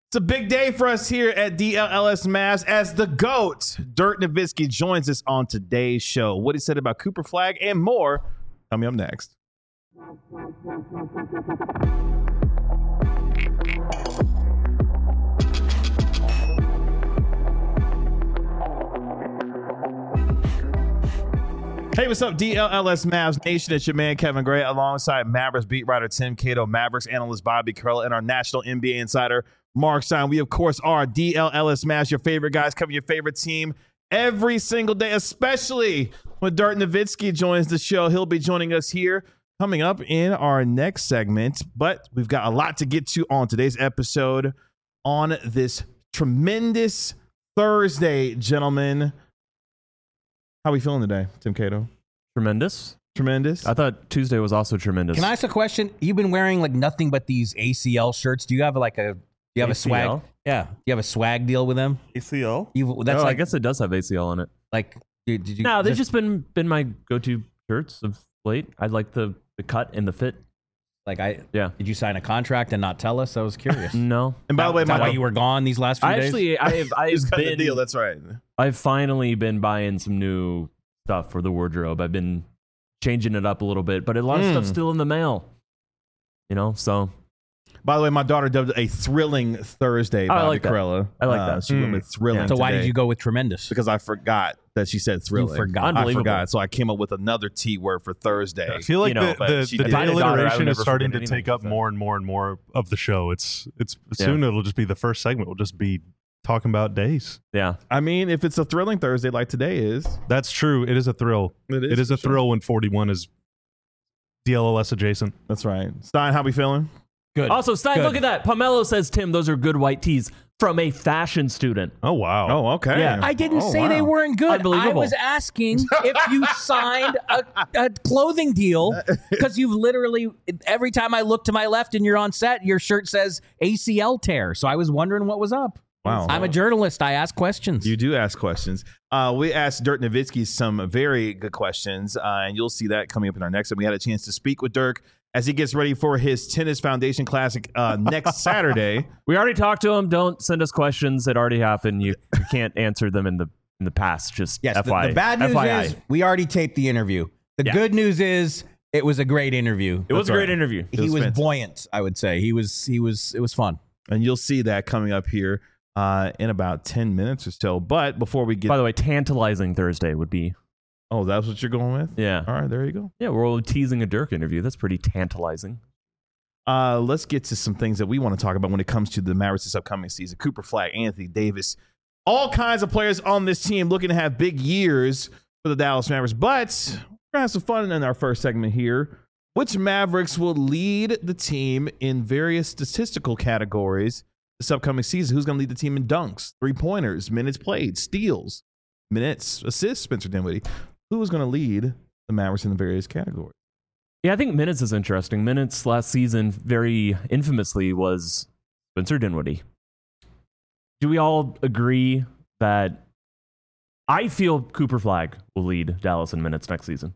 It's a big day for us here at DLLS Mavs as the GOAT, Dirk Nowitzki, joins us on today's show. What he said about Cooper Flagg and more coming up next. Hey, what's up, DLLS Mavs Nation? It's your man, Kevin Gray, alongside Mavericks beat writer Tim Cato, Mavericks analyst Bobby Carroll, and our national NBA insider, Mark Stein. We, of course, are DLLS Mavs, your favorite guys, covering your favorite team every single day, especially when Dirk Nowitzki joins the show. He'll be joining us here coming up in our next segment, but we've got a lot to get to on today's episode on this tremendous Thursday, gentlemen. How are we feeling today, Tim Cato? Tremendous. I thought Tuesday was also tremendous. Can I ask a question? You've been wearing like nothing but these ACL shirts. Do you have a swag? Yeah. Do you have a swag deal with them? ACL? I guess it does have ACL on it. Like, did you? No, they've just been my go-to shirts of late. I like the cut and the fit. Did you sign a contract and not tell us? I was curious. No. And by the way, why you were gone these last few days? I've been the deal. That's right. I've finally been buying some new stuff for the wardrobe. I've been changing it up a little bit, but a lot of stuff's still in the mail. So. By the way, my daughter dubbed it a thrilling Thursday. I like that. Corella. I like that. She went with thrilling. So why today did you go with tremendous? Because I forgot that she said thrilling. You forgot. I forgot. So I came up with another T word for Thursday. I feel like the alliteration is starting to take up so. more and more of the show. It's soon it'll just be the first segment. We'll just be talking about days. Yeah. I mean, if it's a thrilling Thursday like today is. That's true. It is a thrill. It is a thrill when 41 is DLLS adjacent. That's right. Stein, how we feeling? Good. Also, Stein, look at that. Pomelo says, Tim, those are good white tees from a fashion student. Oh, wow. Oh, okay. Yeah. I didn't say they weren't good. Unbelievable. I was asking if you signed a clothing deal because you've literally, every time I look to my left and you're on set, your shirt says ACL tear. So I was wondering what was up. Wow. I'm a journalist. I ask questions. You do ask questions. We asked Dirk Nowitzki some very good questions, and you'll see that coming up in our next. And we had a chance to speak with Dirk as he gets ready for his Tennis Foundation Classic next Saturday. We already talked to him. Don't send us questions that already happened. You can't answer them in the past. Just FYI. The bad news is we already taped the interview. The good news is it was a great interview. It was a great interview. He was buoyant, I would say. It was fun. And you'll see that coming up here in about 10 minutes or so. But before we get... By the way, tantalizing Thursday would be... Oh, that's what you're going with? Yeah. All right, there you go. Yeah, we're all teasing a Dirk interview. That's pretty tantalizing. Let's get to some things that we want to talk about when it comes to the Mavericks this upcoming season. Cooper Flagg, Anthony Davis, all kinds of players on this team looking to have big years for the Dallas Mavericks. But we're going to have some fun in our first segment here. Which Mavericks will lead the team in various statistical categories this upcoming season? Who's going to lead the team in dunks, three-pointers, minutes played, steals, minutes, assists, Spencer Dinwiddie? Who is going to lead the Mavericks in the various categories? Yeah, I think minutes is interesting. Minutes last season, very infamously, was Spencer Dinwiddie. Do we all agree that I feel Cooper Flagg will lead Dallas in minutes next season?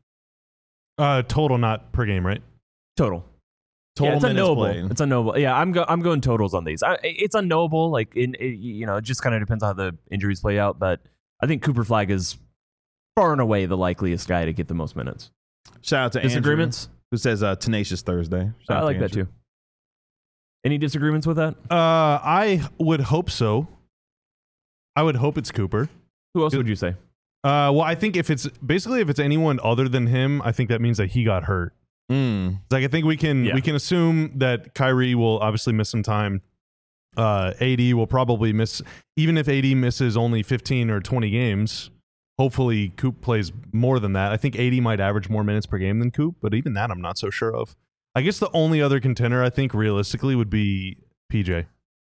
Total, not per game, right? Total. Total it's minutes unknowable. played. It's unknowable. Yeah, I'm going totals on these. It's unknowable. Like it just kind of depends on how the injuries play out. But I think Cooper Flagg is far and away the likeliest guy to get the most minutes. Shout out to disagreements, Andrew, who says tenacious Thursday. I like that too. Any disagreements with that? I would hope so. I would hope it's Cooper. Who else would you say? Well, I think if it's anyone other than him, I think that means that he got hurt. Like I think we can assume that Kyrie will obviously miss some time. AD will probably miss, even if AD misses only 15 or 20 games. Hopefully, Coop plays more than that. I think AD might average more minutes per game than Coop, but even that I'm not so sure of. I guess the only other contender I think realistically would be PJ.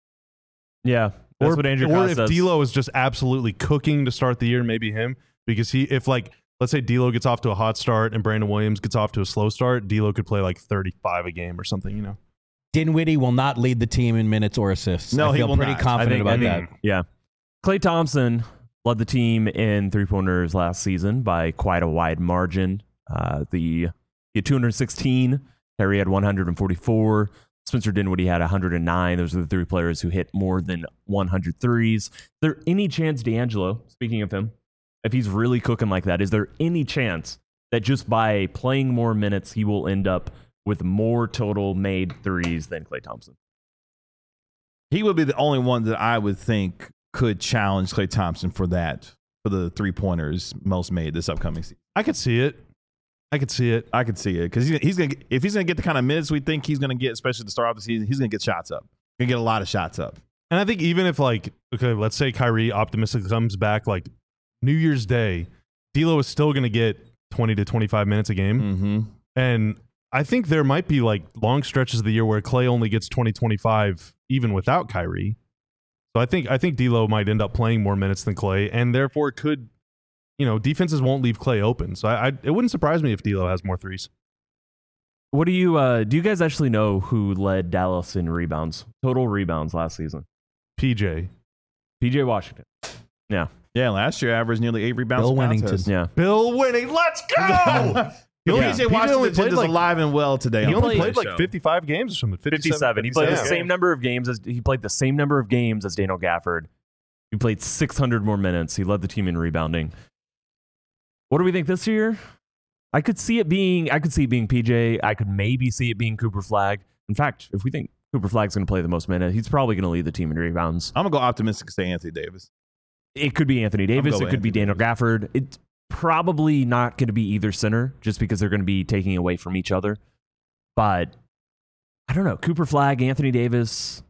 Yeah, that's what Andrew Coss says. Or if D'Lo is just absolutely cooking to start the year, maybe him. Because if let's say D'Lo gets off to a hot start and Brandon Williams gets off to a slow start, D'Lo could play like 35 a game or something, Dinwiddie will not lead the team in minutes or assists. No, I feel he will pretty not. confident about that. Yeah. Klay Thompson led the team in three-pointers last season by quite a wide margin. He had 216. Harry had 144. Spencer Dinwiddie had 109. Those are the three players who hit more than 100 threes. Is there any chance D'Angelo, speaking of him, if he's really cooking like that, is there any chance that just by playing more minutes, he will end up with more total made threes than Klay Thompson? He would be the only one that I would think could challenge Klay Thompson for that, for the 3-pointers most made this upcoming season. I could see it. I could see it because he's gonna, if he's gonna get the kind of minutes we think he's gonna get, especially at the start of the season, he's gonna get shots up. Gonna get a lot of shots up. And I think even if let's say Kyrie optimistically comes back New Year's Day, D'Lo is still gonna get 20 to 25 minutes a game. Mm-hmm. And I think there might be long stretches of the year where Klay only gets 20, 25 even without Kyrie. So I think D'Lo might end up playing more minutes than Klay, and therefore could, defenses won't leave Klay open. So it wouldn't surprise me if D'Lo has more threes. What do you guys actually know who led Dallas in rebounds, total rebounds last season? PJ Washington. Yeah. Yeah, last year averaged nearly 8 rebounds. Bill per Wennington. contest. Yeah. Bill Winning, let's go! PJ Washington is alive and well today. He only played played 55 games or something. 57. He played the same number of games as Daniel Gafford. He played 600 more minutes. He led the team in rebounding. What do we think this year? I could see it being PJ. I could maybe see it being Cooper Flagg. In fact, if we think Cooper Flagg's going to play the most minutes, he's probably going to lead the team in rebounds. I'm going to go optimistic and say Anthony Davis. It could be Anthony Davis. It could be Daniel Gafford. It's probably not going to be either center just because they're going to be taking away from each other. But I don't know. Cooper Flagg, Anthony Davis,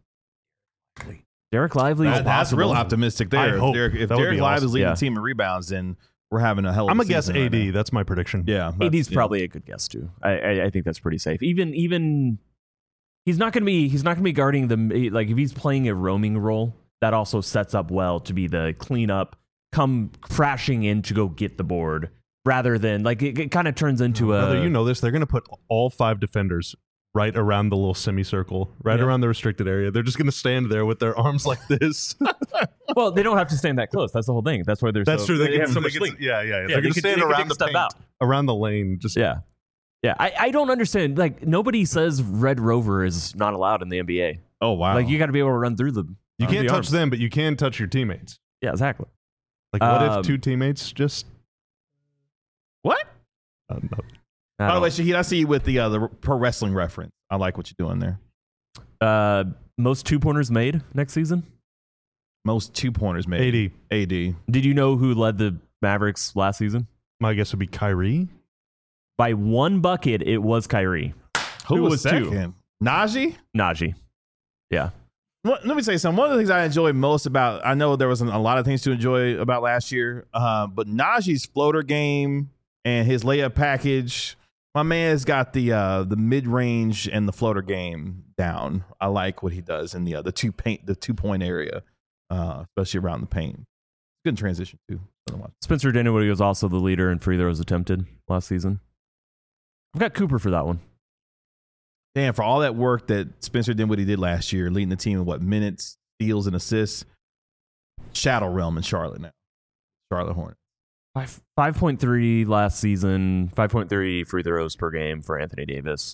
Derek Lively. That's real optimistic there. If Derek Lively is leading the team in rebounds, then we're having a hell of a season. I'm going to guess AD. That's my prediction. Yeah. AD's probably a good guess too. I think that's pretty safe. Even he's not going to be guarding the, if he's playing a roaming role, that also sets up well to be the cleanup, come crashing in to go get the board, rather than it kind of turns into a. You know this. They're going to put all 5 defenders right around the little semicircle, around the restricted area. They're just going to stand there with their arms like this. Well, they don't have to stand that close. That's the whole thing. That's why they're. That's true. They have so much length. Yeah. They're going to stand around the paint, around the lane. Just yeah. I don't understand. Nobody says Red Rover is not allowed in the NBA. Oh wow. You got to be able to run through them. You can't touch them, but you can touch your teammates. Yeah, exactly. What if 2 teammates just... What? No. By the way, Shahid, I see you with the pro wrestling reference. I like what you're doing there. Most 2-pointers made next season? Most 2-pointers made. AD. Did you know who led the Mavericks last season? My guess would be Kyrie. By 1 bucket, it was Kyrie. Who was second? Najee? Yeah. Let me say something. One of the things I enjoy most about, I know there wasn't a lot of things to enjoy about last year, but Najee's floater game and his layup package, my man's got the mid-range and the floater game down. I like what he does in the 2-point area, especially around the paint. Good transition too. Spencer Dinwiddie was also the leader in free throws attempted last season. I've got Cooper for that one. Damn, for all that work that Spencer Dinwiddie did last year, leading the team in minutes, steals, and assists, shadow realm in Charlotte now. Charlotte Hornets. 5.3 last season, 5.3 free throws per game for Anthony Davis.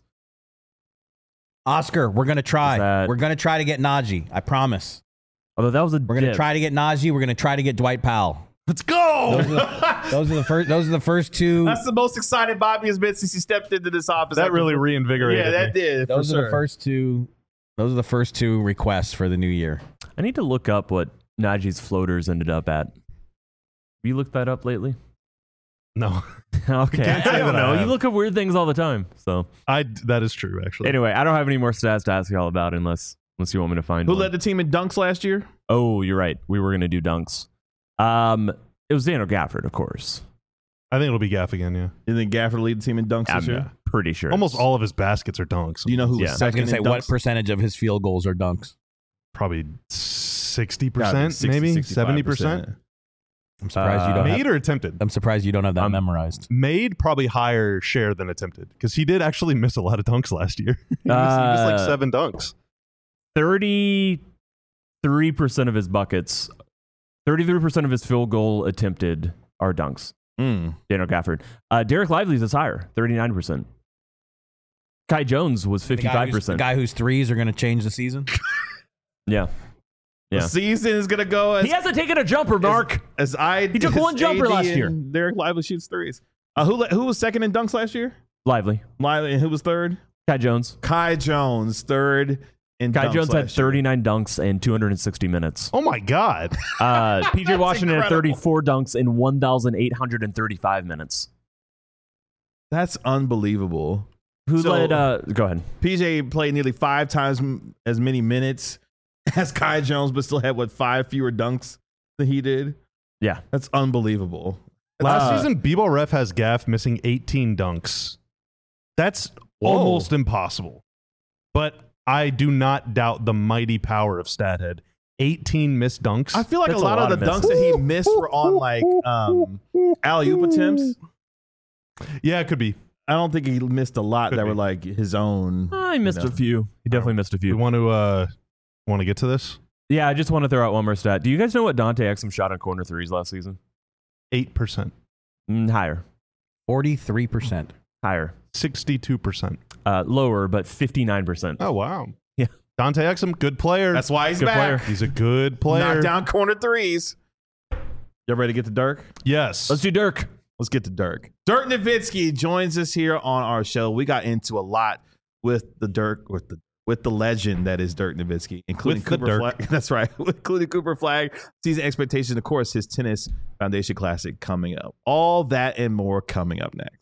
Oscar, we're going to try. We're going to try to get Najee. I promise. Although that was We're going to try to get Najee. We're going to try to get Dwight Powell. Let's go! Those are the first 2. That's the most excited Bobby has been since he stepped into this office. That really reinvigorated. Yeah, that did. Those are the first 2. Those are the first 2 requests for the new year. I need to look up what Najee's floaters ended up at. Have you looked that up lately? No. Okay. I don't know. You look up weird things all the time. So that is true, actually. Anyway, I don't have any more stats to ask you all about unless you want me to find Who one. led the team in dunks last year? Oh, you're right. We were going to do dunks. It was Daniel Gafford, of course. I think it'll be Gaff again, yeah. You think Gafford lead the team in dunks this year? Pretty sure. Almost all of his baskets are dunks. Do you know who was I was second going to say, in dunks? what percentage of his field goals are dunks? Probably 60%, maybe 70%. I'm surprised you don't made or attempted. I'm surprised you don't have that memorized. Made probably higher share than attempted because he did actually miss a lot of dunks last year. he missed 7 dunks. 33% of his buckets, 33% of his field goal attempted are dunks. Daniel Gafford. Derek Lively's is higher, 39%. Kai Jones was 55%. The guy whose threes are going to change the season. Yeah. The season is going to go as... He hasn't taken a jumper, Mark. He took one jumper last year. Derek Lively shoots threes. Who was second in dunks last year? Lively. And who was third? Kai Jones. Kai Jones, third in dunks. Kai Jones had last year. 39 dunks in 260 minutes. Oh, my God. PJ Washington had incredible. 34 dunks in 1,835 minutes. That's unbelievable. Who led? Go ahead. PJ played nearly 5 times as many minutes as Kai Jones, but still had, 5 fewer dunks than he did? Yeah. That's unbelievable. Last season, B-Ball Ref has Gaff missing 18 dunks. That's almost impossible. But I do not doubt the mighty power of Stathead. 18 missed dunks. I feel like That's a lot of the dunks that he missed were on, alley-oop attempts. Yeah, it could be. I don't think he missed a lot Could that be. were like his own. I missed a few. He definitely missed a We few. want to get to this? Yeah, I just want to throw out one more stat. Do you guys know what Dante Exum shot on corner threes last season? 8%. Higher. 43%. Higher. 62%. Lower, but 59%. Oh, wow. Yeah. Dante Exum, good player. That's why he's Good back. player. He's a good player. Knock down corner threes. You ready to get to Dirk? Yes. Let's do Dirk. Let's get to Dirk. Dirk Nowitzki joins us here on our show. We got into a lot with the Dirk, with the legend that is Dirk Nowitzki, including With the Cooper Dirk. Flag. That's right, including Cooper Flag, season expectations, of course, his Tennis Foundation Classic coming up. All that and more coming up next.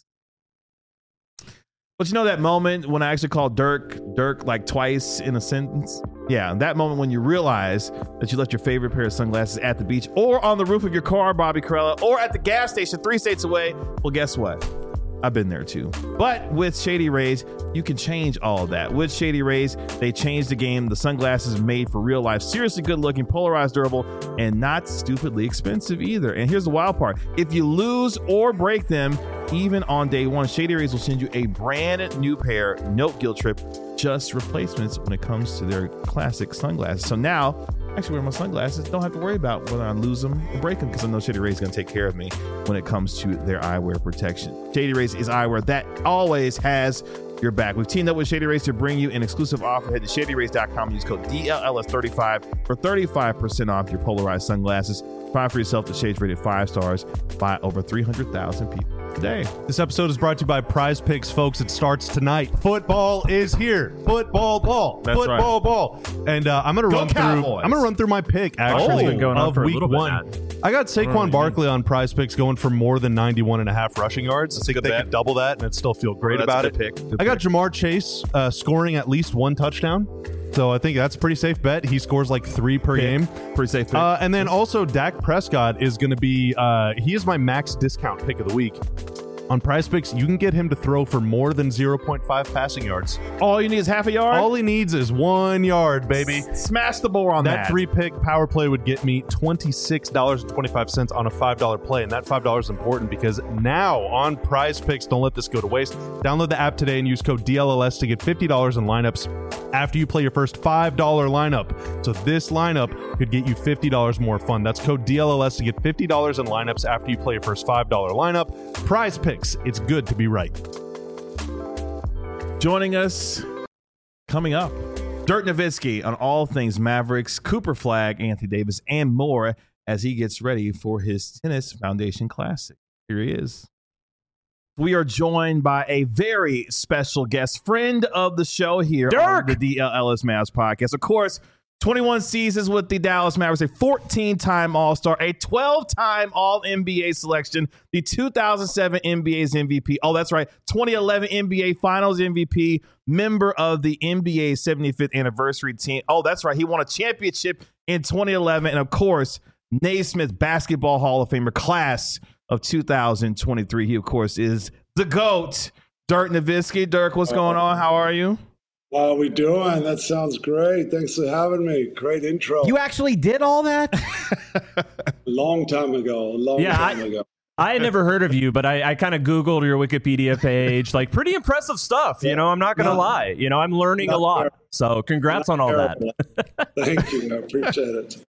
But you know that moment when I actually called Dirk like twice in a sentence? Yeah, that moment when you realize that you left your favorite pair of sunglasses at the beach or on the roof of your car, Bobby Carella, or at the gas station 3 states away. Well, guess what? I've been there too. But with Shady Rays, you can change all of that. With Shady Rays, they changed the game. The sunglasses are made for real life, seriously good looking, polarized, durable, and not stupidly expensive either. And here's the wild part. If you lose or break them, even on day one, Shady Rays will send you a brand new pair, no guilt trip, just replacements when it comes to their classic sunglasses. So now, actually wear my sunglasses, don't have to worry about whether I lose them or break them because I know Shady Rays is going to take care of me when it comes to their eyewear protection. Shady Rays is eyewear that always has your back. We've teamed up with Shady Rays to bring you an exclusive offer. Head to shadyrays.com and use code DLLS35 for 35% off your polarized sunglasses. Find for yourself the shades rated 5 stars by over 300,000 people today. This episode is brought to you by Prize Picks, folks. It starts tonight. Football is here. Football ball. That's Football right. ball. And I'm gonna run Cowboys. through my pick actually been going on of for a week little bit, 1. Matt. I got Saquon Barkley on Prize Picks going for more than 91.5 rushing yards. I think good they bet. could double that and I'd still feel great That's about a it. good pick. Good I got pick. Jamar Chase scoring at least 1 touchdown. So I think that's a pretty safe bet. He scores like 3 per game. Pretty safe pick. And then also Dak Prescott is going to be he is my max discount pick of the week. On Prize Picks, you can get him to throw for more than 0.5 passing yards. All you need is half a yard. All he needs is 1 yard, baby. Smash the ball on That 3-pick power play would get me $26.25 on a $5 play. And that $5 is important because now on Prize Picks, don't let this go to waste. Download the app today and use code DLLS to get $50 in lineups after you play your first $5 lineup. So this lineup could get you $50 more fun. That's code DLLS to get $50 in lineups after you play your first $5 lineup. Prize Picks. It's good to be right. Joining us coming up, Dirk Nowitzki on all things Mavericks, Cooper Flag, Anthony Davis, and more as he gets ready for his Tennis Foundation Classic. Here he is. We are joined by a very special guest, friend of the show here Dirk! on the DLLS Mavs podcast. Of course, 21 seasons with the Dallas Mavericks, a 14-time All-Star, a 12-time All-NBA selection, the 2007 NBA's MVP. Oh, that's right, 2011 NBA Finals MVP, member of the NBA 75th anniversary team. Oh, that's right, he won a championship in 2011. And, of course, Naismith Basketball Hall of Famer, class of 2023. He, of course, is the GOAT, Dirk Nowitzki. Dirk, what's going on? How are you? How are we doing? That sounds great. Thanks for having me. Great intro. You actually did all that? Long time ago. I had never heard of you, but I kind of Googled your Wikipedia page. Like, pretty impressive stuff. You know, I'm not going to lie. You know, I'm learning a lot. So congrats on all that. Thank you. I appreciate it.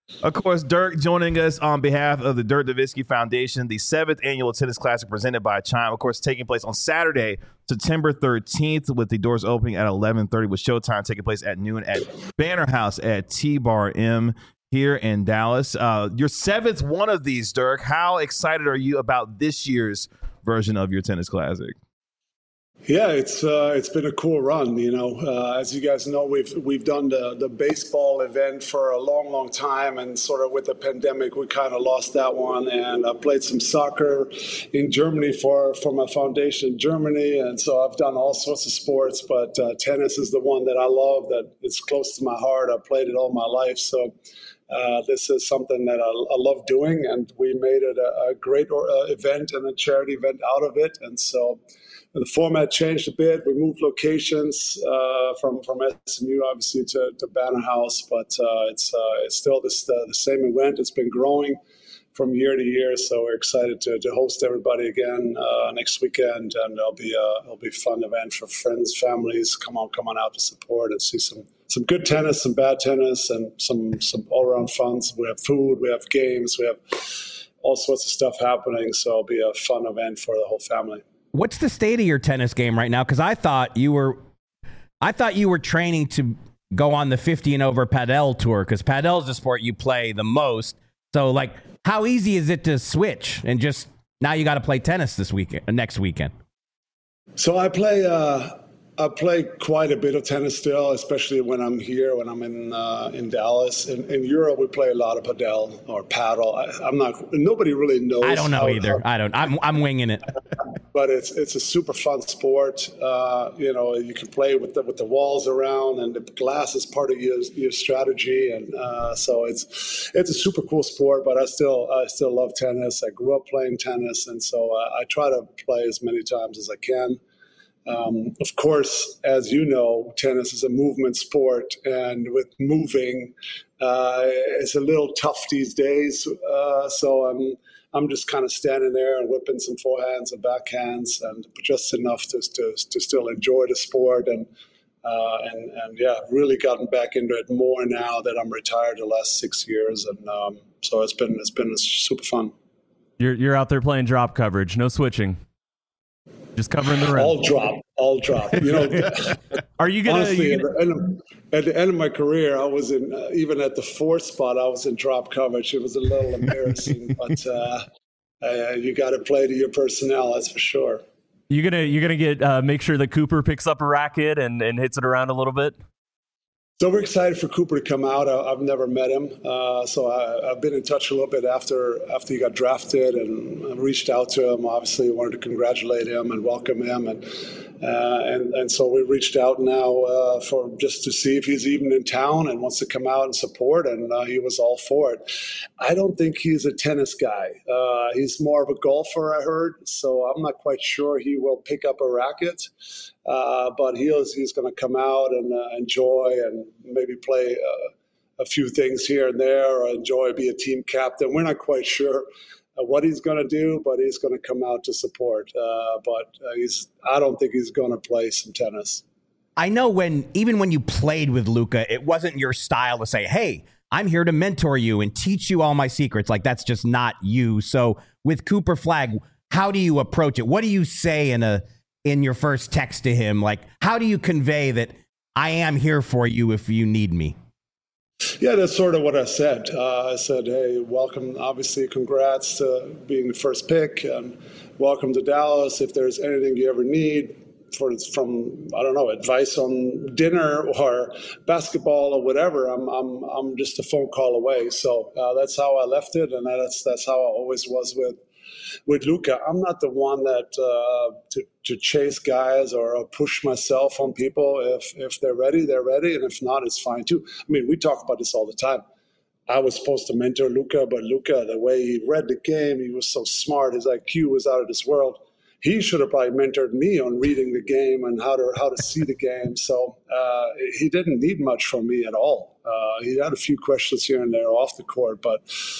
Of course, Dirk joining us on behalf of the Dirk Nowitzki Foundation, the 7th annual tennis classic presented by Chime, of course, taking place on Saturday, September 13th, with the doors opening at 11:30, with showtime taking place at noon at Banner House at T-Bar M here in Dallas. Your 7th one of these, Dirk. How excited are you about this year's version of your tennis classic? Yeah, it's been a cool run. As you guys know, we've done the baseball event for a long time, and sort of with the pandemic, we kind of lost that one. And I played some soccer in Germany for my foundation in Germany, and so I've done all sorts of sports. But tennis is the one that I love. That it's close to my heart. I've played it all my life, so. This is something that I love doing, and we made it a great event and a charity event out of it. And so the format changed a bit. We moved locations from SMU, obviously, to Banner House, but it's still the same event. It's been growing from year to year, so we're excited to host everybody again next weekend, and it'll be a fun event for friends, families. Come on out to support and see some good tennis, some bad tennis, and some all-around fun. So we have food, we have games, we have all sorts of stuff happening. So it'll be a fun event for the whole family. What's the state of your tennis game right now? Because I thought you were training to go on the 50 and over Padel tour, because Padel is the sport you play the most. So, like, how easy is it to switch and just now you got to play tennis next weekend? So I play quite a bit of tennis still, especially when I'm here, when I'm in Dallas. In Europe, we play a lot of padel or paddle. Nobody really knows. I don't know either. I'm winging it. But it's a super fun sport. You can play with the walls around, and the glass is part of your strategy, and so it's a super cool sport. But I still love tennis. I grew up playing tennis, and so I try to play as many times as I can. Of course, as you know, tennis is a movement sport, and with moving, it's a little tough these days. So I'm just kind of standing there and whipping some forehands and backhands, and just enough to still enjoy the sport, and yeah, really gotten back into it more now that I'm retired the last 6 years, and so it's been super fun. You're out there playing drop coverage, no switching. Just covering the rim. All drop. Are you gonna? Honestly, at the end of my career, I was in even at the 4th spot. I was in drop coverage. It was a little embarrassing, but you got to play to your personnel. That's for sure. You're gonna get make sure that Cooper picks up a racket and hits it around a little bit. So we're excited for Cooper to come out. I've never met him, so I've been in touch a little bit after he got drafted, and reached out to him. Obviously, wanted to congratulate him and welcome him, and so we reached out now for just to see if he's even in town and wants to come out and support, and he was all for it. I don't think he's a tennis guy. He's more of a golfer, I heard, so I'm not quite sure he will pick up a racket. But he's going to come out and enjoy and maybe play a few things here and there, or be a team captain. We're not quite sure what he's going to do, but he's going to come out to support. But I don't think he's going to play some tennis. I know even when you played with Luka, it wasn't your style to say, hey, I'm here to mentor you and teach you all my secrets. Like, that's just not you. So with Cooper Flagg, how do you approach it? What do you say in your first text to him? Like, how do you convey that I am here for you if you need me? Yeah, that's sort of what I said. I said, hey, welcome, obviously, congrats to being the first pick, and welcome to Dallas. If there's anything you ever need from I don't know, advice on dinner or basketball or whatever, I'm just a phone call away. So that's how I left it, and that's how I always was with Luka. I'm not the one that to chase guys or push myself on people. If they're ready, they're ready, and if not, it's fine too. I mean, we talk about this all the time. I was supposed to mentor Luka, but Luka, the way he read the game, he was so smart. His IQ was out of this world. He should have probably mentored me on reading the game and how to see the game. So he didn't need much from me at all. He had a few questions here and there off the court, but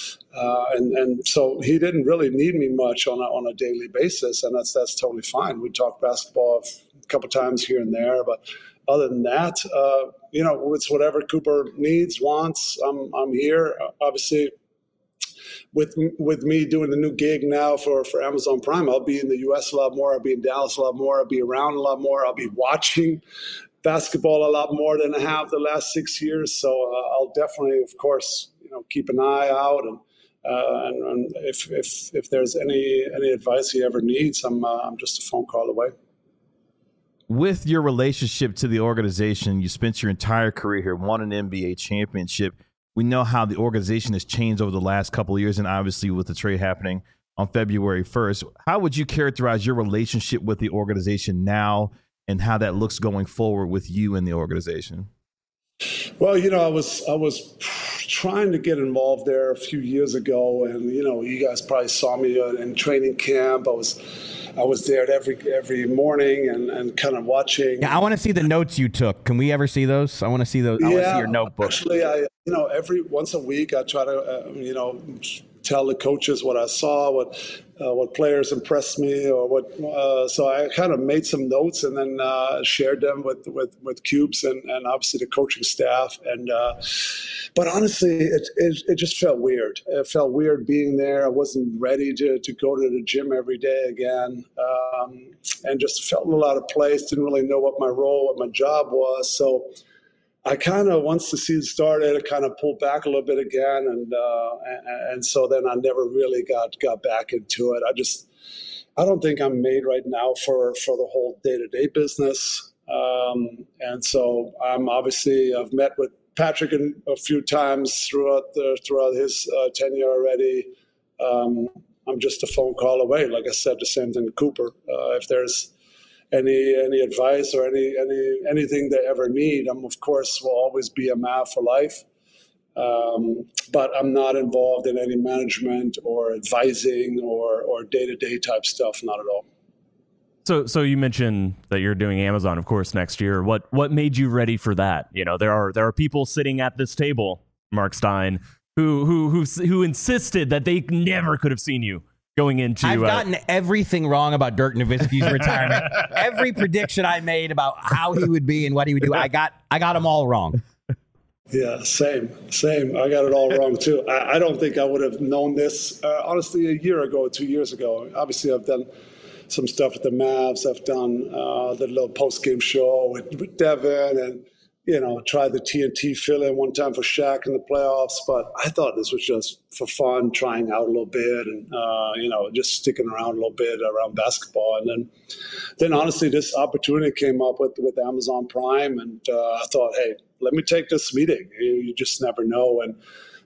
and so he didn't really need me much on a daily basis, and that's totally fine. We talk basketball a couple times here and there, but other than that, it's whatever Cooper needs, wants. I'm here. Obviously, with me doing the new gig now for Amazon Prime, I'll be in the U.S. a lot more. I'll be in Dallas a lot more. I'll be around a lot more. I'll be watching basketball a lot more than I have the last 6 years. So I'll definitely, of course, keep an eye out, and if there's any advice he ever needs, I'm just a phone call away. With your relationship to the organization, you spent your entire career here, won an NBA championship. We know how the organization has changed over the last couple of years, and obviously with the trade happening on February 1st. How would you characterize your relationship with the organization now and how that looks going forward with you and the organization? Well, I was trying to get involved there a few years ago, and you guys probably saw me in training camp. I was there every morning and kind of watching. Yeah, I want to see the notes you took. Can we ever see those? I want to see those. I want to see your notebook. Actually, every once a week I try to tell the coaches what I saw, what players impressed me, or what. So I kind of made some notes and then shared them with Cubes and obviously the coaching staff. And but honestly, it just felt weird. It felt weird being there. I wasn't ready to go to the gym every day again, and just felt a lot of place. Didn't really know what my role, what my job was. So I kind of, once the season started, I kind of pulled back a little bit again, and so then I never really got back into it. I don't think I'm made right now for the whole day-to-day business, and so I've met with Patrick a few times throughout his tenure already. I'm just a phone call away. Like I said, the same thing to Cooper. If there's any advice or anything they ever need, of course will always be a Mav for life. But I'm not involved in any management or advising or day-to-day type stuff, not at all. So you mentioned that you're doing Amazon, of course, next year. What made you ready for that? There are people sitting at this table, Mark Stein, who insisted that they never could have seen you going into. I've gotten everything wrong about Dirk Nowitzki's retirement. Every prediction I made about how he would be and what he would do, I got them all wrong. Yeah, same. I got it all wrong too. I don't think I would have known this honestly a year ago, 2 years ago. Obviously, I've done some stuff with the Mavs. I've done the little post-game show with Devin, and tried the TNT fill-in one time for Shaq in the playoffs. But I thought this was just for fun, trying out a little bit, and just sticking around a little bit around basketball. And then honestly, this opportunity came up with Amazon Prime, and I thought, hey, let me take this meeting. You just never know. And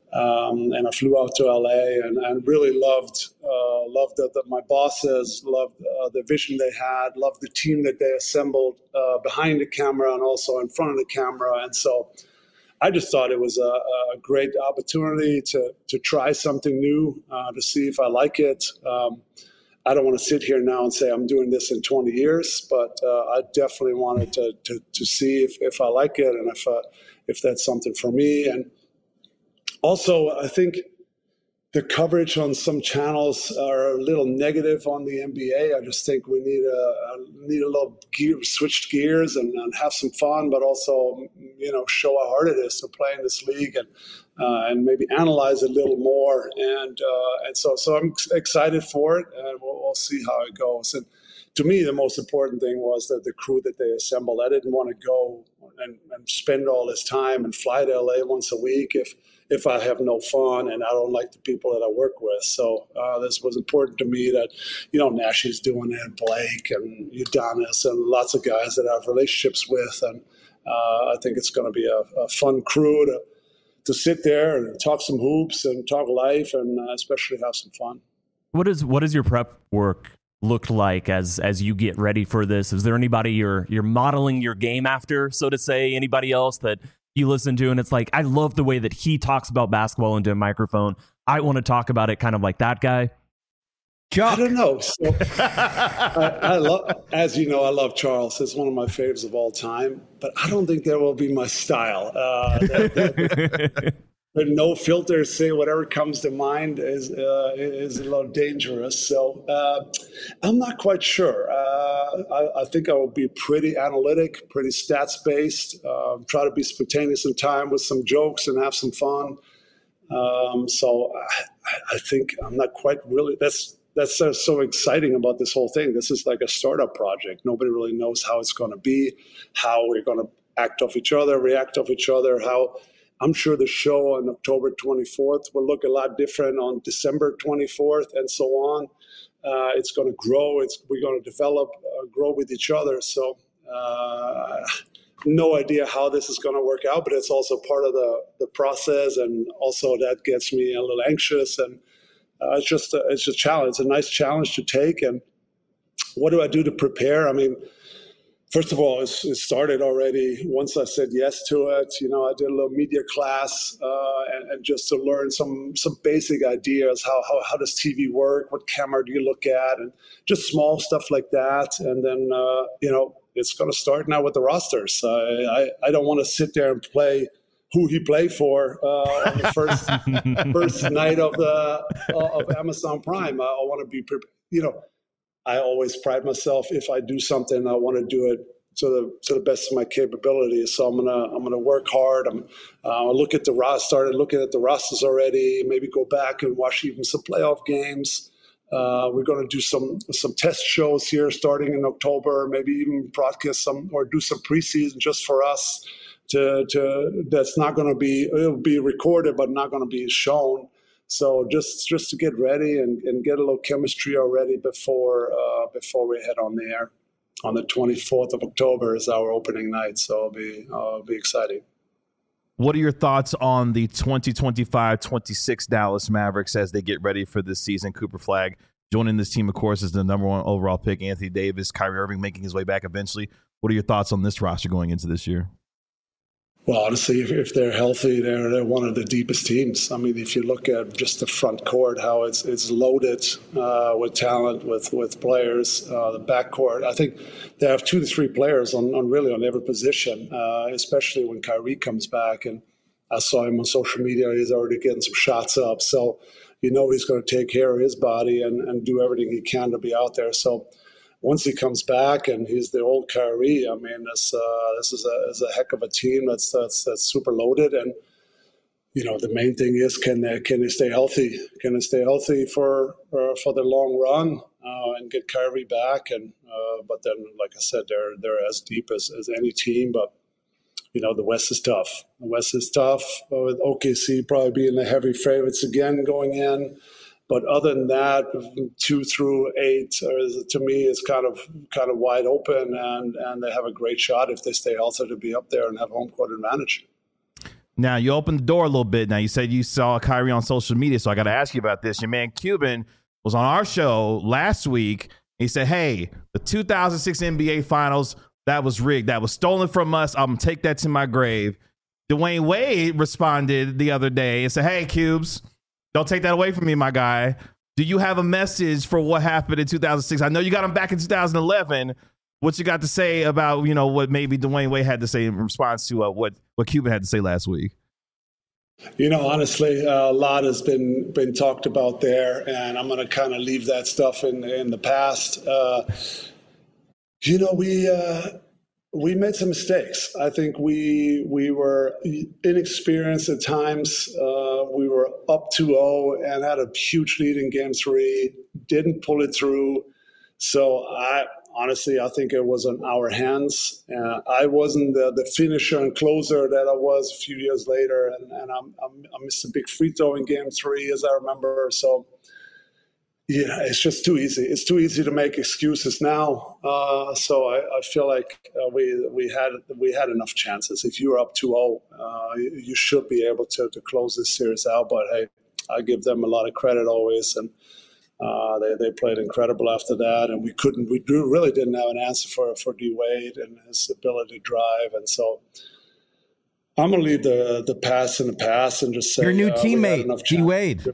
I flew out to LA and really loved that my bosses, loved the vision they had, loved the team that they assembled behind the camera and also in front of the camera. And so I just thought it was a great opportunity to try something new, to see if I like it. I don't want to sit here now and say I'm doing this in 20 years, but I definitely wanted to see if I like it and if that's something for me. And also, I think the coverage on some channels are a little negative on the NBA. I just think we need a little switch gears and have some fun, but also show how hard it is to play in this league and maybe analyze a little more. And so I'm excited for it, and we'll see how it goes. And to me, the most important thing was that the crew that they assembled. I didn't want to go and spend all this time and fly to LA once a week if I have no fun and I don't like the people that I work with. So this was important to me that, Nashi's doing it, Blake and Udonis and lots of guys that I have relationships with. And I think it's going to be a fun crew to sit there and talk some hoops and talk life and especially have some fun. What is your prep work look like as you get ready for this? Is there anybody you're modeling your game after, so to say? Anybody else that you listen to and it's like, I love the way that he talks about basketball into a microphone, I want to talk about it kind of like that guy? I don't know. So, I love, as you know, I love Charles. He's one of my favorites of all time, but I don't think that will be my style. no filter, say whatever comes to mind is a little dangerous. So I'm not quite sure. I think I will be pretty analytic, pretty stats based. Try to be spontaneous in time with some jokes and have some fun. So I think I'm not quite really. That's so exciting about this whole thing. This is like a startup project. Nobody really knows how it's going to be, how we're going to act off each other, react off each other, how. I'm sure the show on October 24th will look a lot different on December 24th and so on. It's going to grow. We're going to develop, grow with each other. So no idea how this is going to work out, but it's also part of the process. And also that gets me a little anxious. And it's just a challenge. It's a nice challenge to take. And what do I do to prepare? I mean, first of all, it started already. Once I said yes to it, I did a little media class and just to learn some basic ideas. How does TV work? What camera do you look at? And just small stuff like that. And then, it's going to start now with the rosters. I don't want to sit there and play who he played for on the first night of Amazon Prime. I want to be prepared. I always pride myself. If I do something, I want to do it to the best of my capabilities. So I'm gonna work hard. Started looking at the rosters already. Maybe go back and watch even some playoff games. We're going to do some test shows here starting in October. Maybe even broadcast some or do some preseason just for us. That's not going to be. It'll be recorded, but not going to be shown. So just to get ready and get a little chemistry already before we head on the air. On the 24th of October is our opening night, so it'll be exciting. What are your thoughts on the 2025-26 Dallas Mavericks as they get ready for this season? Cooper Flagg joining this team, of course, is the number one overall pick. Anthony Davis, Kyrie Irving making his way back eventually. What are your thoughts on this roster going into this year? Well, honestly, if they're healthy, they're one of the deepest teams. I mean, if you look at just the front court, how it's loaded with talent, with players, the backcourt. I think they have 2 to 3 players on every position, especially when Kyrie comes back. And I saw him on social media; he's already getting some shots up. So he's going to take care of his body and do everything he can to be out there. So. Once he comes back and he's the old Kyrie, I mean, this is a heck of a team that's super loaded. And the main thing is can they stay healthy? Can they stay healthy for the long run and get Kyrie back? And but then, like I said, they're as deep as any team. But the West is tough. The West is tough with OKC probably being the heavy favorites again going in. But other than that, 2 through 8, to me, is kind of wide open, and they have a great shot if they stay healthy to be up there and have home court advantage. Now, you opened the door a little bit. Now, you said you saw Kyrie on social media, so I got to ask you about this. Your man Cuban was on our show last week. He said, hey, the 2006 NBA Finals, that was rigged. That was stolen from us. I'm going to take that to my grave. Dwayne Wade responded the other day and said, hey, Cubes, don't take that away from me, my guy. Do you have a message for what happened in 2006? I know you got him back in 2011. What you got to say about, what maybe Dwayne Wade had to say in response to what Cuban had to say last week? Honestly, a lot has been talked about there, and I'm going to kind of leave that stuff in the past. We made some mistakes. I think we were inexperienced at times. We were up 2-0 and had a huge lead in Game 3, didn't pull it through. So I think it was on our hands. I wasn't the finisher and closer that I was a few years later, and I missed a big free throw in Game 3, as I remember. So. Yeah, it's just too easy. It's too easy to make excuses now. So I feel like we had enough chances. If you're up 2-0, you should be able to close this series out. But hey, I give them a lot of credit always, and they played incredible after that. And we really didn't have an answer for D Wade and his ability to drive. And so I'm gonna leave the past in the past and just say your new teammate, D Wade.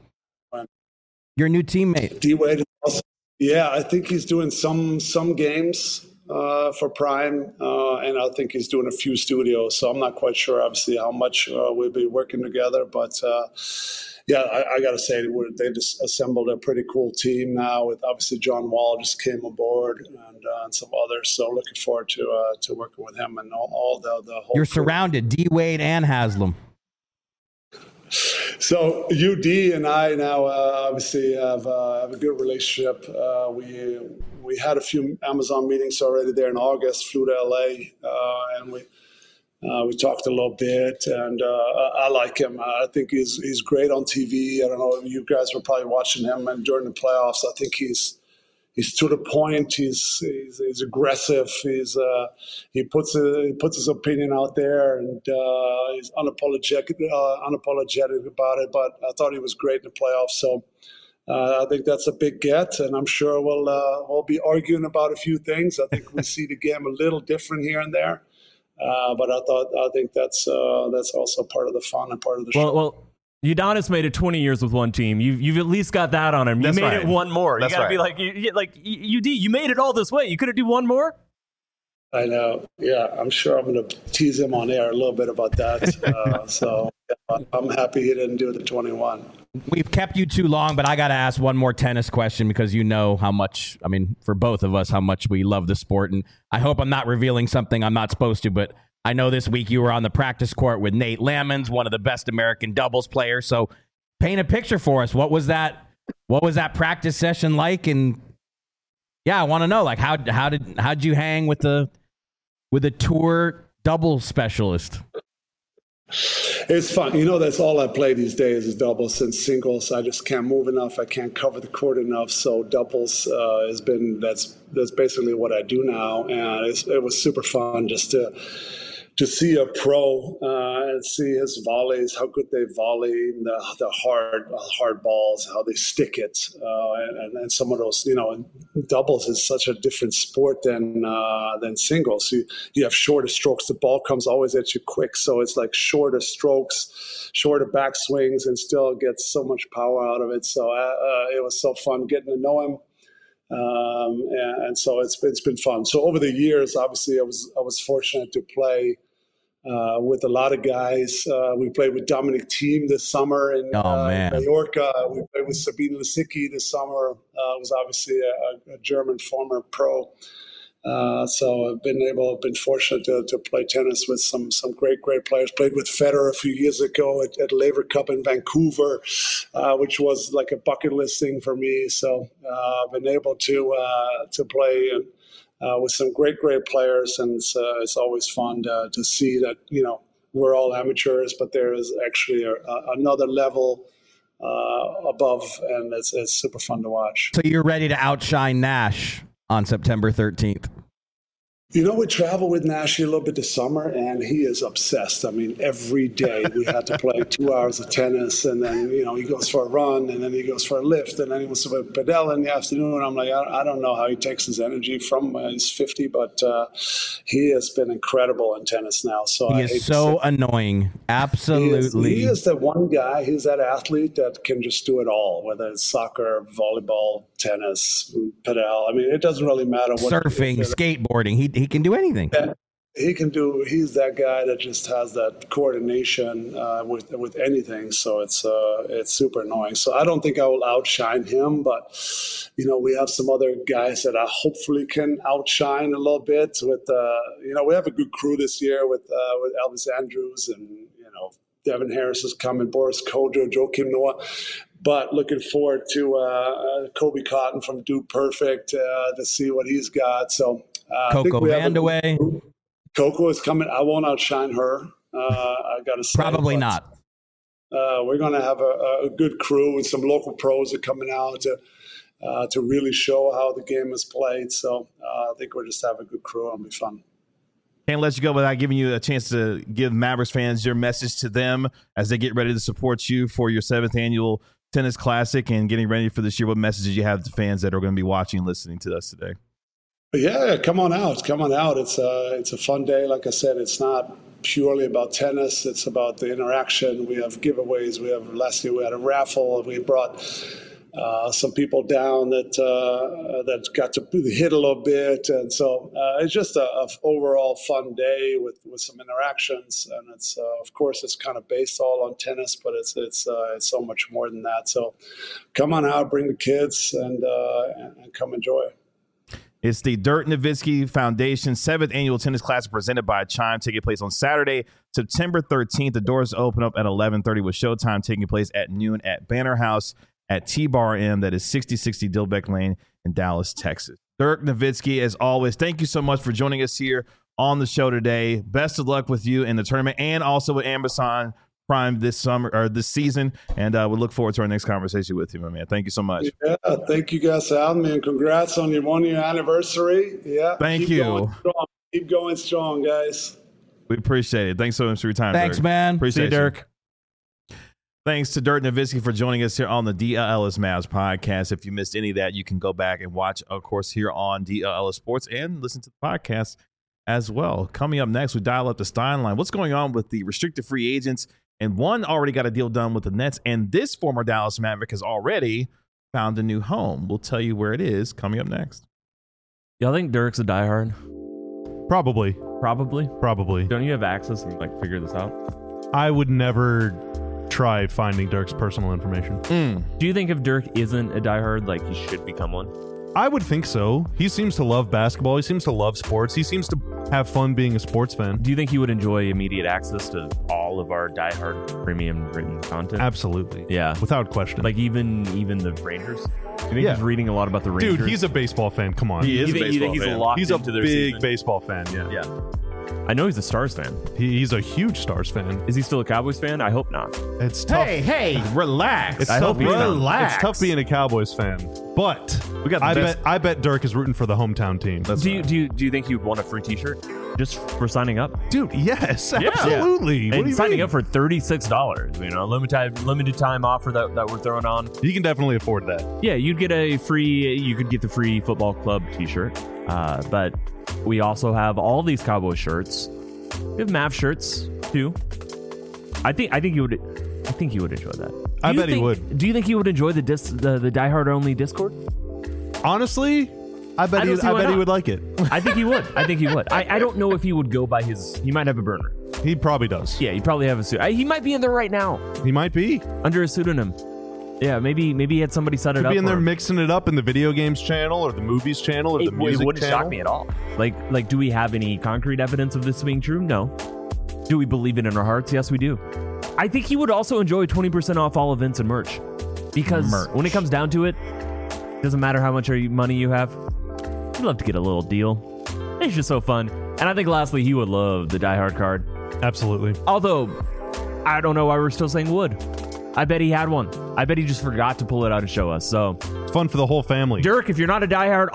Your new teammate. D Wade, I think he's doing some games. for Prime, and I think he's doing a few studios. So I'm not quite sure, obviously, how much we'll be working together. But yeah, I got to say, they just assembled a pretty cool team now. With obviously John Wall just came aboard, and some others. So looking forward to working with him and all the whole. You're crew. surrounded, D Wade and Haslam. So UD and I now obviously have a good relationship. We had a few Amazon meetings already there in August. Flew to LA, and we talked a little bit. And I like him. I think he's great on TV. I don't know, you guys were probably watching him, and during the playoffs, I think he's to the point. He's aggressive. He puts his opinion out there, and he's unapologetic about it. But I thought he was great in the playoffs. So I think that's a big get, and I'm sure we'll be arguing about a few things. I think we see the game a little different here and there. But I think that's also part of the fun and part of the show. Well, Udonis made it 20 years with one team. You've at least got that on him. You made it one more. That's you gotta be like UD. You made it all this way. You couldn't do one more. I know. Yeah, I'm sure I'm going to tease him on air a little bit about that. So I'm happy he didn't do the 21. We've kept you too long, but I got to ask one more tennis question because you know how much, I mean, for both of us, how much we love the sport. And I hope I'm not revealing something I'm not supposed to, but I know this week you were on the practice court with Nate Lamons, one of the best American doubles players. So paint a picture for us. What was that practice session like? And yeah, I want to know, like, how'd you hang with the tour doubles specialist? It's fun. That's all I play these days is doubles and singles. I just can't move enough. I can't cover the court enough. So doubles that's basically what I do now. And it was super fun just to see a pro and see his volleys, how good they volley, the hard balls, how they stick it, and some of those, doubles is such a different sport than singles. You have shorter strokes. The ball comes always at you quick, so it's like shorter strokes, shorter back swings, and still gets so much power out of it. So it was so fun getting to know him. And so it's been fun. So over the years, obviously, I was fortunate to play with a lot of guys. We played with Dominic Thiem this summer in Mallorca. We played with Sabine Lisicki this summer. Was obviously a German former pro. So I've been fortunate to play tennis with some great players. Played with Federer a few years ago at Laver Cup in Vancouver, which was like a bucket list thing for me. So I've been able to play with some great players, and it's always fun to see that we're all amateurs, but there is actually another level above, and it's super fun to watch. So you're ready to outshine Nash on September 13th. We travel with Nash a little bit this summer, and he is obsessed. I mean, every day we had to play 2 hours of tennis, and then, he goes for a run, and then he goes for a lift, and then he wants to padel in the afternoon. I'm like, I don't know how he takes his energy from he's 50, but he has been incredible in tennis now. So he is so annoying. Absolutely. He is the one guy, he's that athlete that can just do it all, whether it's soccer, volleyball, tennis, padel. I mean, it doesn't really matter what. Surfing, skateboarding. He can do anything. He's that guy that just has that coordination with anything. So it's super annoying. So I don't think I will outshine him, but we have some other guys that I hopefully can outshine a little bit. With we have a good crew this year with Elvis Andrews and Devin Harris is coming, Boris Kodjoe, Joakim Noah. But looking forward to Kobe Cotton from Dude Perfect to see what he's got. So Coco Vandeweghe. Coco is coming. I won't outshine her. I got to say. Probably not. We're going to have a good crew, and some local pros are coming out to really show how the game is played. So I think we'll just have a good crew. It'll be fun. Can't let you go without giving you a chance to give Mavericks fans your message to them as they get ready to support you for your 7th annual Tennis Classic and getting ready for this year. What messages you have to fans that are going to be watching and listening to us today? Yeah, come on out. It's a fun day. Like I said, it's not purely about tennis. It's about the interaction. We have giveaways. Last year we had a raffle. We brought some people down that got to hit a little bit, and so it's just a overall fun day with some interactions. And it's of course it's kind of based all on tennis, but it's so much more than that. So come on out, bring the kids, and come enjoy. It's the Dirk Nowitzki Foundation 7th Annual Tennis Classic presented by Chime, taking place on Saturday, September 13th. The doors open up at 11:30 with showtime taking place at noon at Banner House at T-Bar M. That is 6060 Dilbeck Lane in Dallas, Texas. Dirk Nowitzki, as always, thank you so much for joining us here on the show today. Best of luck with you in the tournament and also with Amazon Prime this summer or this season, and we look forward to our next conversation with you, my man. Thank you so much. Yeah, thank you guys for having me, and congrats on your 1-year anniversary. Yeah, thank you. Keep going strong, guys. We appreciate it. Thanks so much for your time. Thanks, Dirk. man. Appreciate you, Dirk. Thanks to Dirk Nowitzki for joining us here on the DLLS Mavs podcast. If you missed any of that, you can go back and watch, of course, here on DLLS Sports and listen to the podcast as well. Coming up next, we dial up the Stein line. What's going on with the restricted free agents? And one already got a deal done with the Nets, and this former Dallas Maverick has already found a new home. We'll tell you where it is coming up next. Y'all think Dirk's a diehard? Probably. Don't you have access and figure this out? I would never try finding Dirk's personal information. Do you think if Dirk isn't a diehard, he should become one? I would think so. He seems to love basketball. He seems to love sports. He seems to have fun being a sports fan. Do you think he would enjoy immediate access to all of our diehard premium written content? Absolutely. Yeah. Without question. Even the Rangers? Do you think he's reading a lot about the Rangers? Dude, he's a baseball fan. Come on. He is you a baseball think fan. Locked He's a into their big season? baseball fan. Yeah. I know he's a Stars fan. He's a huge Stars fan. Is he still a Cowboys fan? I hope not. It's tough. Hey, relax. It's I tough hope he's not. Relax. It's tough being a Cowboys fan, but We got the best- I bet Dirk is rooting for the hometown team. Do you think you'd want a free T-shirt just for signing up? Dude, yes, absolutely. What do And you signing mean? up for $36, limited time offer that we're throwing on. You can definitely afford that. Yeah, you could get the free football club T-shirt, but we also have all these Cowboy shirts. We have Mav shirts too. I think he would enjoy that. I bet he would. Do you think he would enjoy the diehard only Discord? Honestly, I bet he would like it. I think he would. I don't know if he would go by his. He might have a burner. He probably does. Yeah, he probably have a suit. He might be in there right now He might be. under a pseudonym. Yeah, maybe he had somebody set it Could up. be in for there him. mixing it up in the video games channel or the movies channel or the It music wouldn't channel. shock me at all. Like, do we have any concrete evidence of this being true? No. Do we believe it in our hearts? Yes, we do. I think he would also enjoy 20% off all events and merch. Because when it comes down to it, doesn't matter how much money you have, you'd love to get a little deal. It's just so fun. And I think lastly, he would love the Die Hard card. Absolutely. Although, I don't know why we're still saying would. I bet he had one. I bet he just forgot to pull it out and show us. So, It's fun for the whole family. Dirk, if you're not a diehard,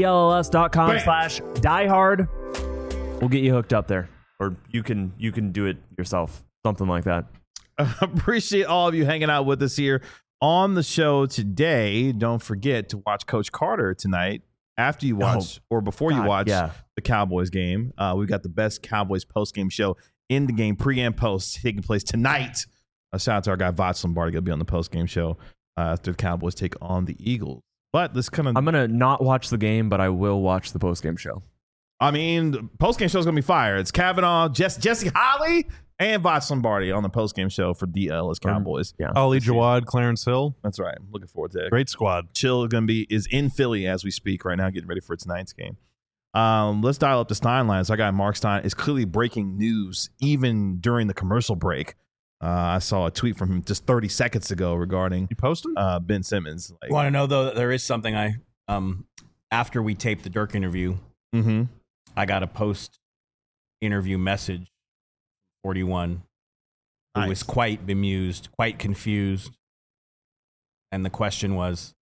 alldlls.com/diehard. We'll get you hooked up there. Or you can do it yourself. Something like that. Appreciate all of you hanging out with us here on the show today. Don't forget to watch Coach Carter tonight after you watch or before you watch the Cowboys game. We've got the best Cowboys post-game show in the game, pre and post, taking place tonight. Shout out to our guy Voch Lombardi. He'll be on the post-game show after the Cowboys take on the Eagles. But this kind of... I'm going to not watch the game, but I will watch the post-game show. I mean, the post-game show is going to be fire. It's Kavanaugh, Jesse Holly, and Voch Lombardi on the post-game show for DLS Cowboys. Yeah. Ali Jawad, Clarence Hill. That's right. I'm looking forward to it. Great squad. Chill is in Philly as we speak right now, getting ready for tonight's game. Let's dial up the Stein lines. Our guy Mark Stein is clearly breaking news even during the commercial break. I saw a tweet from him just 30 seconds ago regarding You posted? Ben Simmons. You want to know though that there is something after we taped the Dirk interview, I got a post-interview message. 41, who was quite bemused, quite confused, and the question was,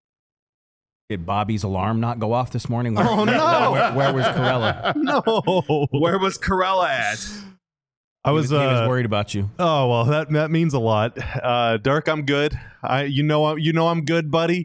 "Did Bobby's alarm not go off this morning? Where was Corella? No. Where was Corella at? I was he was worried about you. Oh well, that means a lot. Dirk, I'm good. I'm good, buddy.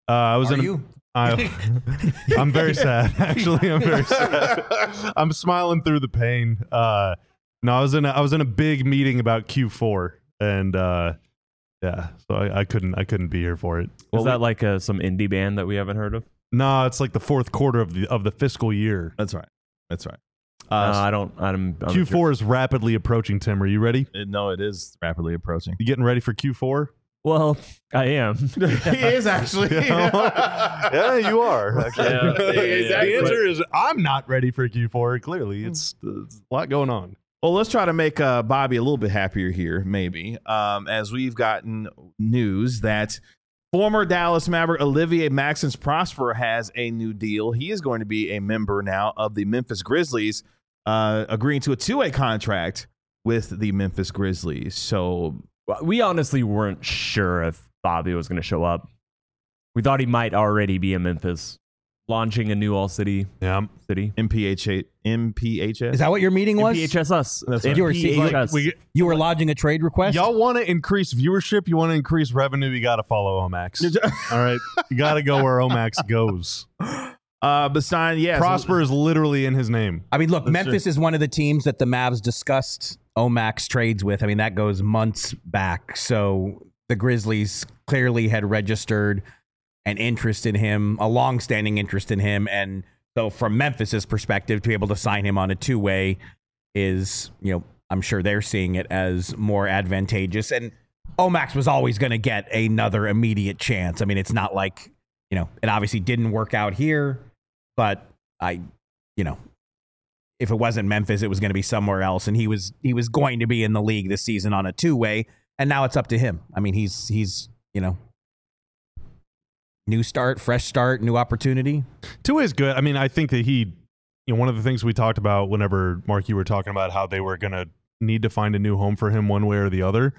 I'm very sad. Actually, I'm very sad. I'm smiling through the pain. No, I was in a big meeting about Q4, and Yeah, so I couldn't be here for it. Is that like some indie band that we haven't heard of? No, it's like the fourth quarter of the fiscal year. That's right. I don't. I'm Q4 is rapidly approaching. Tim, are you ready? No, it is rapidly approaching. You getting ready for Q4? Well, I am. He is actually. Yeah, you are. Actually. Exactly. The answer is I'm not ready for Q4. Clearly, it's a lot going on. Well, let's try to make Bobby a little bit happier here, maybe, as we've gotten news that former Dallas Maverick Olivier Maxence Prosper has a new deal. He is going to be a member now of the Memphis Grizzlies, agreeing to a two-way contract with the Memphis Grizzlies. So we honestly weren't sure if Bobby was going to show up. We thought he might already be in Memphis, launching a new all-city city. MPHS? Is that what your meeting was? MPHS. That's right. You were lodging a trade request? Y'all want to increase viewership? You want to increase revenue? You got to follow Omax. All right. You got to go where Omax goes. Besides, yes. Prosper is literally in his name. I mean, look, Memphis is one of the teams that the Mavs discussed Omax trades with. I mean, that goes months back. So the Grizzlies clearly had registered an interest in him, a long-standing interest in him. And so from Memphis's perspective, to be able to sign him on a two-way is, I'm sure they're seeing it as more advantageous. And Omax was always going to get another immediate chance. I mean, it's not like, it obviously didn't work out here, but if it wasn't Memphis, it was going to be somewhere else. And he was going to be in the league this season on a two-way. And now it's up to him. I mean, he's new start, fresh start, new opportunity. Two is good. I mean, I think that one of the things we talked about whenever, Mark, you were talking about how they were going to need to find a new home for him one way or the other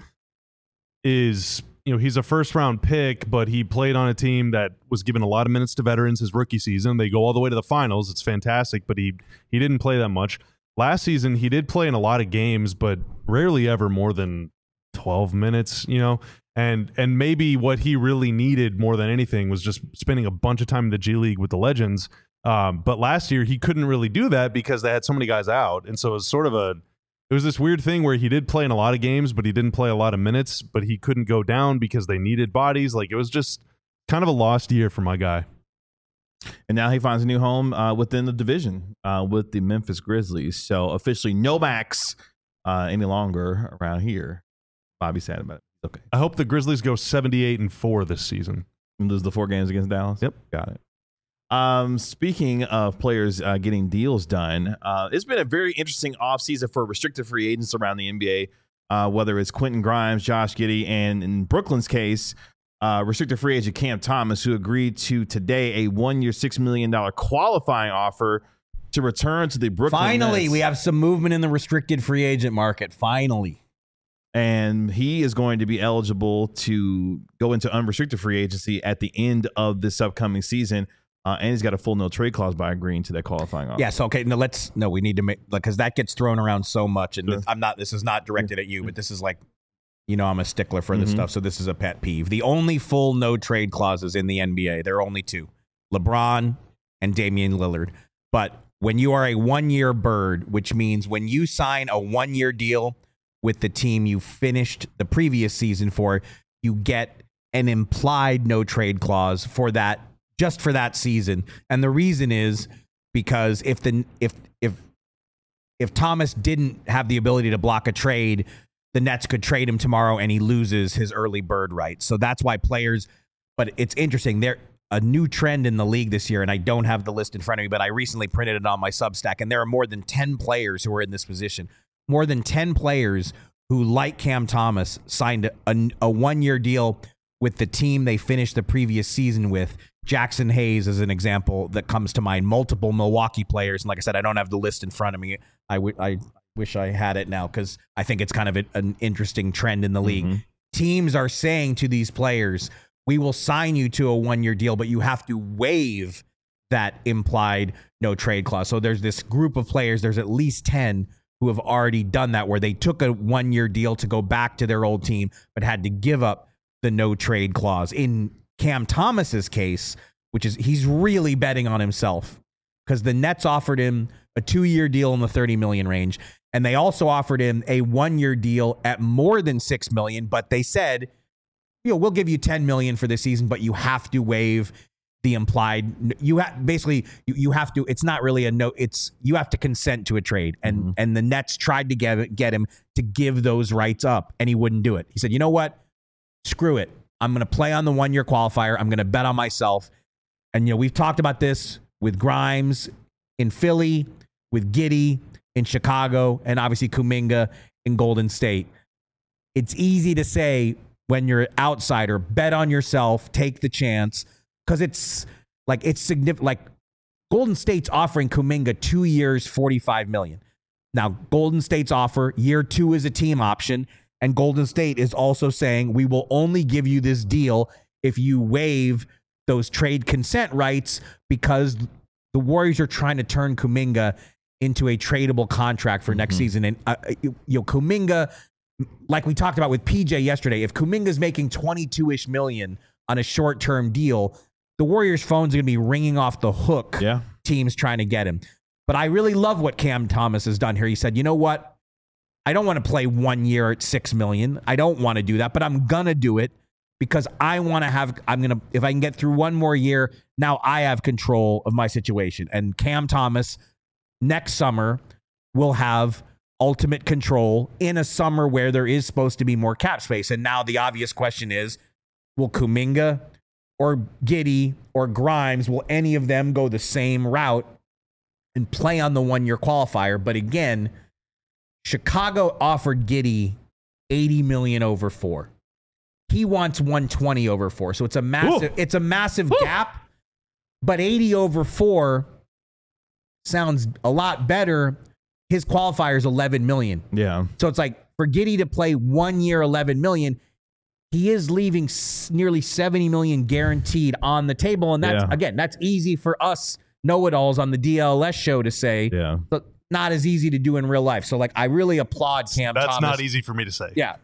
is, he's a first round pick, but he played on a team that was given a lot of minutes to veterans his rookie season. They go all the way to the finals. It's fantastic, but he didn't play that much. Last season, he did play in a lot of games, but rarely ever more than 12 minutes, And maybe what he really needed more than anything was just spending a bunch of time in the G League with the legends. But last year he couldn't really do that because they had so many guys out. And so it was this weird thing where he did play in a lot of games, but he didn't play a lot of minutes, but he couldn't go down because they needed bodies. Like, it was just kind of a lost year for my guy. And now he finds a new home within the division with the Memphis Grizzlies. So officially no Max any longer around here. Bobby's sad about it. Okay. I hope the Grizzlies go 78-4 this season. And lose the 4 games against Dallas? Yep. Got it. Speaking of players getting deals done, it's been a very interesting offseason for restricted free agents around the NBA, whether it's Quentin Grimes, Josh Giddey, and in Brooklyn's case, restricted free agent Cam Thomas, who agreed to today a 1-year, $6 million qualifying offer to return to the Brooklyn Finally, Nets. We have some movement in the restricted free agent market. Finally. And he is going to be eligible to go into unrestricted free agency at the end of this upcoming season. And he's got a full no trade clause by agreeing to that qualifying offer. Yeah. So, okay. No, we need to make, because that gets thrown around so much. And this is not directed at you, but this is like, I'm a stickler for this stuff. So this is a pet peeve. The only full no trade clauses in the NBA, there are only 2, LeBron and Damian Lillard. But when you are a 1-year bird, which means when you sign a 1-year deal with the team you finished the previous season for, you get an implied no trade clause for that, just for that season. And the reason is because if Thomas didn't have the ability to block a trade, the Nets could trade him tomorrow and he loses his early bird right. So that's why players, but it's interesting. There a new trend in the league this year, and I don't have the list in front of me, but I recently printed it on my Substack, and there are more than 10 players who are in this position. More than 10 players who, like Cam Thomas, signed a 1-year deal with the team they finished the previous season with. Jackson Hayes is an example that comes to mind. Multiple Milwaukee players. And like I said, I don't have the list in front of me. I wish I had it now because I think it's kind of an interesting trend in the league. Teams are saying to these players, we will sign you to a 1-year deal, but you have to waive that implied no trade clause. So there's this group of players, there's at least 10 who have already done that, where they took a 1-year deal to go back to their old team, but had to give up the no trade clause. In Cam Thomas's case, which is he's really betting on himself because the Nets offered him a 2-year deal in the $30 million range. And they also offered him a 1-year deal at more than $6 million, but they said we'll give you $10 million for this season, but you have to waive the implied. You have to. It's not really a no. It's you have to consent to a trade, and the Nets tried to get him to give those rights up, and he wouldn't do it. He said, "You know what? Screw it. I'm going to play on the 1-year qualifier. I'm going to bet on myself." And we've talked about this with Grimes in Philly, with Giddey in Chicago, and obviously Kuminga in Golden State. It's easy to say when you're an outsider, bet on yourself, take the chance. Because it's significant. Like Golden State's offering Kuminga 2 years, $45 million. Now, Golden State's offer, year 2 is a team option. And Golden State is also saying, we will only give you this deal if you waive those trade consent rights, because the Warriors are trying to turn Kuminga into a tradable contract for next season. And, Kuminga, like we talked about with PJ yesterday, if Kuminga's making $22-ish million on a short-term deal, the Warriors' phones are going to be ringing off the hook. Yeah. Teams trying to get him. But I really love what Cam Thomas has done here. He said, you know what? I don't want to play 1 year at $6 million. I don't want to do that, but I'm going to do it because if I can get through one more year, now I have control of my situation. And Cam Thomas next summer will have ultimate control in a summer where there is supposed to be more cap space. And now the obvious question is, will Kuminga or Giddey or Grimes, will any of them go the same route and play on the 1-year qualifier? But again, Chicago offered Giddey $80 million over 4. He wants $120 over 4. So it's a massive gap. But 80 over 4 sounds a lot better. His qualifier is $11 million. Yeah. So it's like for Giddey to play 1 year, $11 million, he is leaving nearly $70 million guaranteed on the table. And that's easy for us know-it-alls on the DLS show to say, but not as easy to do in real life. So, I really applaud Cam Thomas. That's not easy for me to say. Yeah.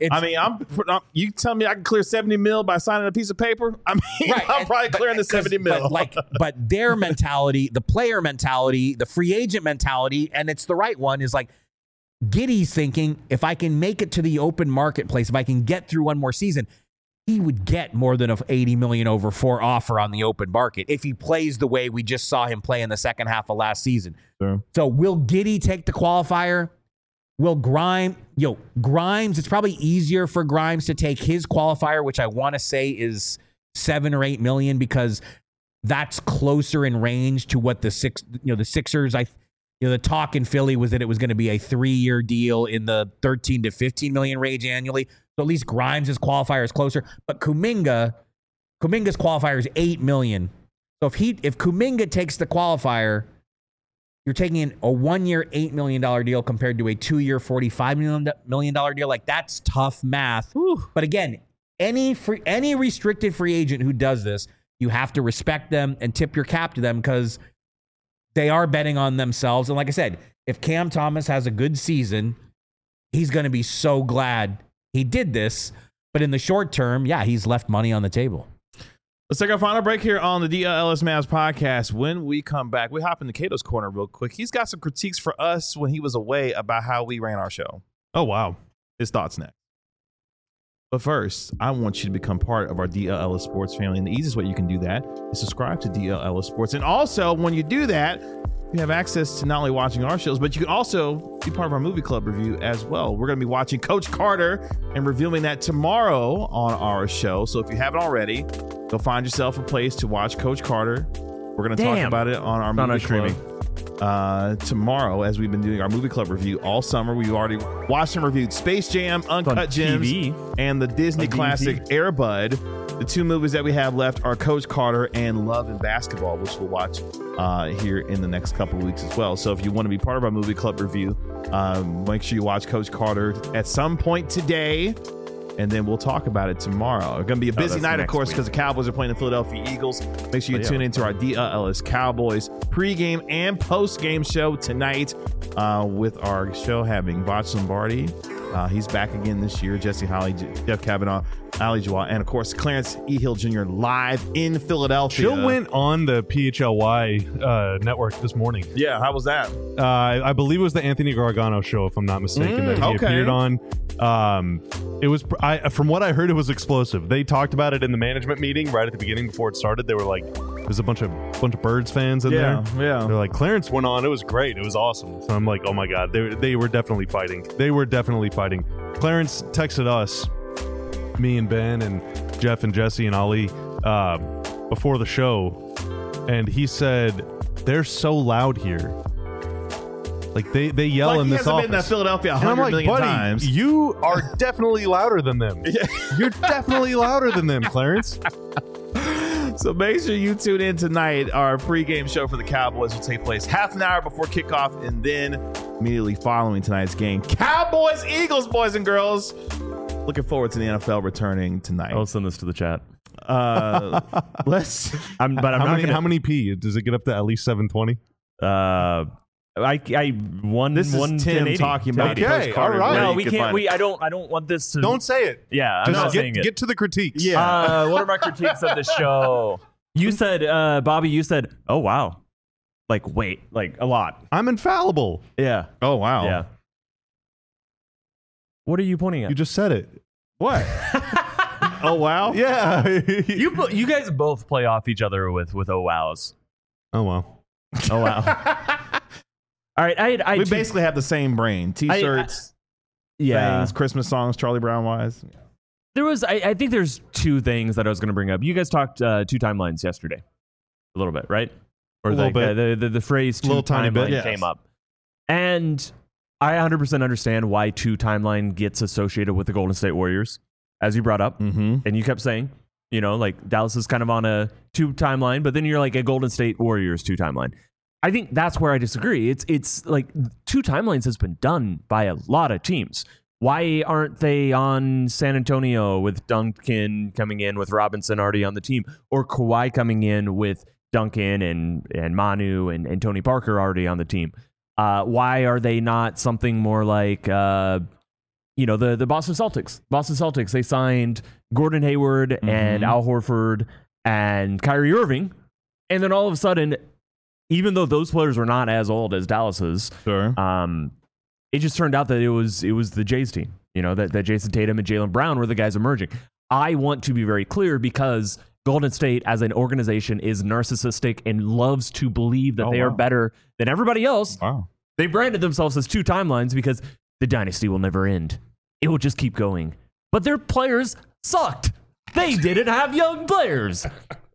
You tell me I can clear $70 million by signing a piece of paper? I'm probably clearing the $70 million. But their mentality, the player mentality, the free agent mentality, and it's the right one, is Giddey's thinking, if I can make it to the open marketplace, if I can get through one more season, he would get more than a $80 million over 4 offer on the open market if he plays the way we just saw him play in the second half of last season. Sure. So will Giddey take the qualifier? Will Grimes, it's probably easier for Grimes to take his qualifier, which I want to say is $7 or $8 million, because that's closer in range to what the Sixers, the talk in Philly was that it was going to be a 3-year deal in the 13 to 15 million range annually. So at least Grimes' qualifier is closer. But Kuminga's qualifier is $8 million. So if Kuminga takes the qualifier, you're taking a 1-year, $8 million deal compared to a 2-year, $45 million deal. That's tough math. Whew. But again, any restricted free agent who does this, you have to respect them and tip your cap to them, because they are betting on themselves. And like I said, if Cam Thomas has a good season, he's going to be so glad he did this. But in the short term, he's left money on the table. Let's take our final break here on the DLS Mavs podcast. When we come back, we hop into Cato's Corner real quick. He's got some critiques for us when he was away about how we ran our show. Oh, wow. His thoughts next. But first, I want you to become part of our DLS Sports family. And the easiest way you can do that is subscribe to DLS Sports. And also, when you do that, you have access to not only watching our shows, but you can also be part of our movie club review as well. We're going to be watching Coach Carter and reviewing that tomorrow on our show. So if you haven't already, go find yourself a place to watch Coach Carter. We're going to talk about it on our movie club tomorrow, as we've been doing our movie club review all summer. We already watched and reviewed Space Jam, Uncut Gems, and the Disney classic Air Bud. The 2 movies that we have left are Coach Carter and Love and Basketball, which we'll watch here in the next couple of weeks as well. So if you want to be part of our movie club review, make sure you watch Coach Carter at some point today, and then we'll talk about it tomorrow. It's going to be a busy night, of course, because the Cowboys are playing the Philadelphia Eagles. Make sure you tune into our DLS Cowboys pregame and postgame show tonight, with our show having Voch Lombardi He's back again this year. Jesse Holley, Jeff Kavanaugh, Ali Jawad, and of course Clarence E. Hill Jr. live in Philadelphia. Chill went on the PHLY network this morning. Yeah, how was that? I believe it was the Anthony Gargano show, if I'm not mistaken, that he appeared on. It was, from what I heard, it was explosive. They talked about it in the management meeting right at the beginning before it started. They were like, there's a bunch of Birds fans in there. Yeah. They're like, Clarence went on. It was great. It was awesome. So I'm like, oh my God, they were definitely fighting. They were definitely fighting. Clarence texted us, me and Ben and Jeff and Jesse and Ali, before the show, and he said, they're so loud here. Like they yell in this office. Been in Philadelphia 100 million buddy, times. You are definitely louder than them. You're definitely louder than them, Clarence. So make sure you tune in tonight. Our pregame show for the Cowboys will take place half an hour before kickoff, and then immediately following tonight's game, Cowboys Eagles, boys and girls. Looking forward to the NFL returning tonight. I'll send this to the chat. Let's. How many P? Does it get up to at least 720? I won. This is Tim talking about. Okay, all right. No, we can't. I don't want this to. Don't say it. Yeah, I'm not saying it. Get to the critiques. Yeah. What are my critiques of the show? You said, Bobby. You said, "Oh wow," like wait, like a lot. I'm infallible. Yeah. Oh wow. Yeah. What are you pointing at? You just said it. What? Oh wow. Yeah. You guys both play off each other with oh wows. Oh wow. Oh wow. All right, we basically have the same brain. T-shirts, things, Christmas songs, Charlie Brown wise. There was, I think there's two things that I was going to bring up. You guys talked two timelines yesterday, a little bit, right? Or a little bit. The phrase two little tiny bit, timeline came up, and I 100% understand why two timeline gets associated with the Golden State Warriors, as you brought up, and you kept saying, like Dallas is kind of on a two timeline, but then you're like a Golden State Warriors two timeline. I think that's where I disagree. It's like two timelines has been done by a lot of teams. Why aren't they on San Antonio with Duncan coming in with Robinson already on the team, or Kawhi coming in with Duncan and Manu and Tony Parker already on the team? Why are they not something more like the Boston Celtics? Boston Celtics, they signed Gordon Hayward and Al Horford and Kyrie Irving, and then all of a sudden, even though those players were not as old as Dallas's, sure. It just turned out that it was the Jays team. That Jason Tatum and Jaylen Brown were the guys emerging. I want to be very clear because Golden State as an organization is narcissistic and loves to believe that they are better than everybody else. Wow. They branded themselves as two timelines because the dynasty will never end. It will just keep going. But their players sucked. They didn't have young players.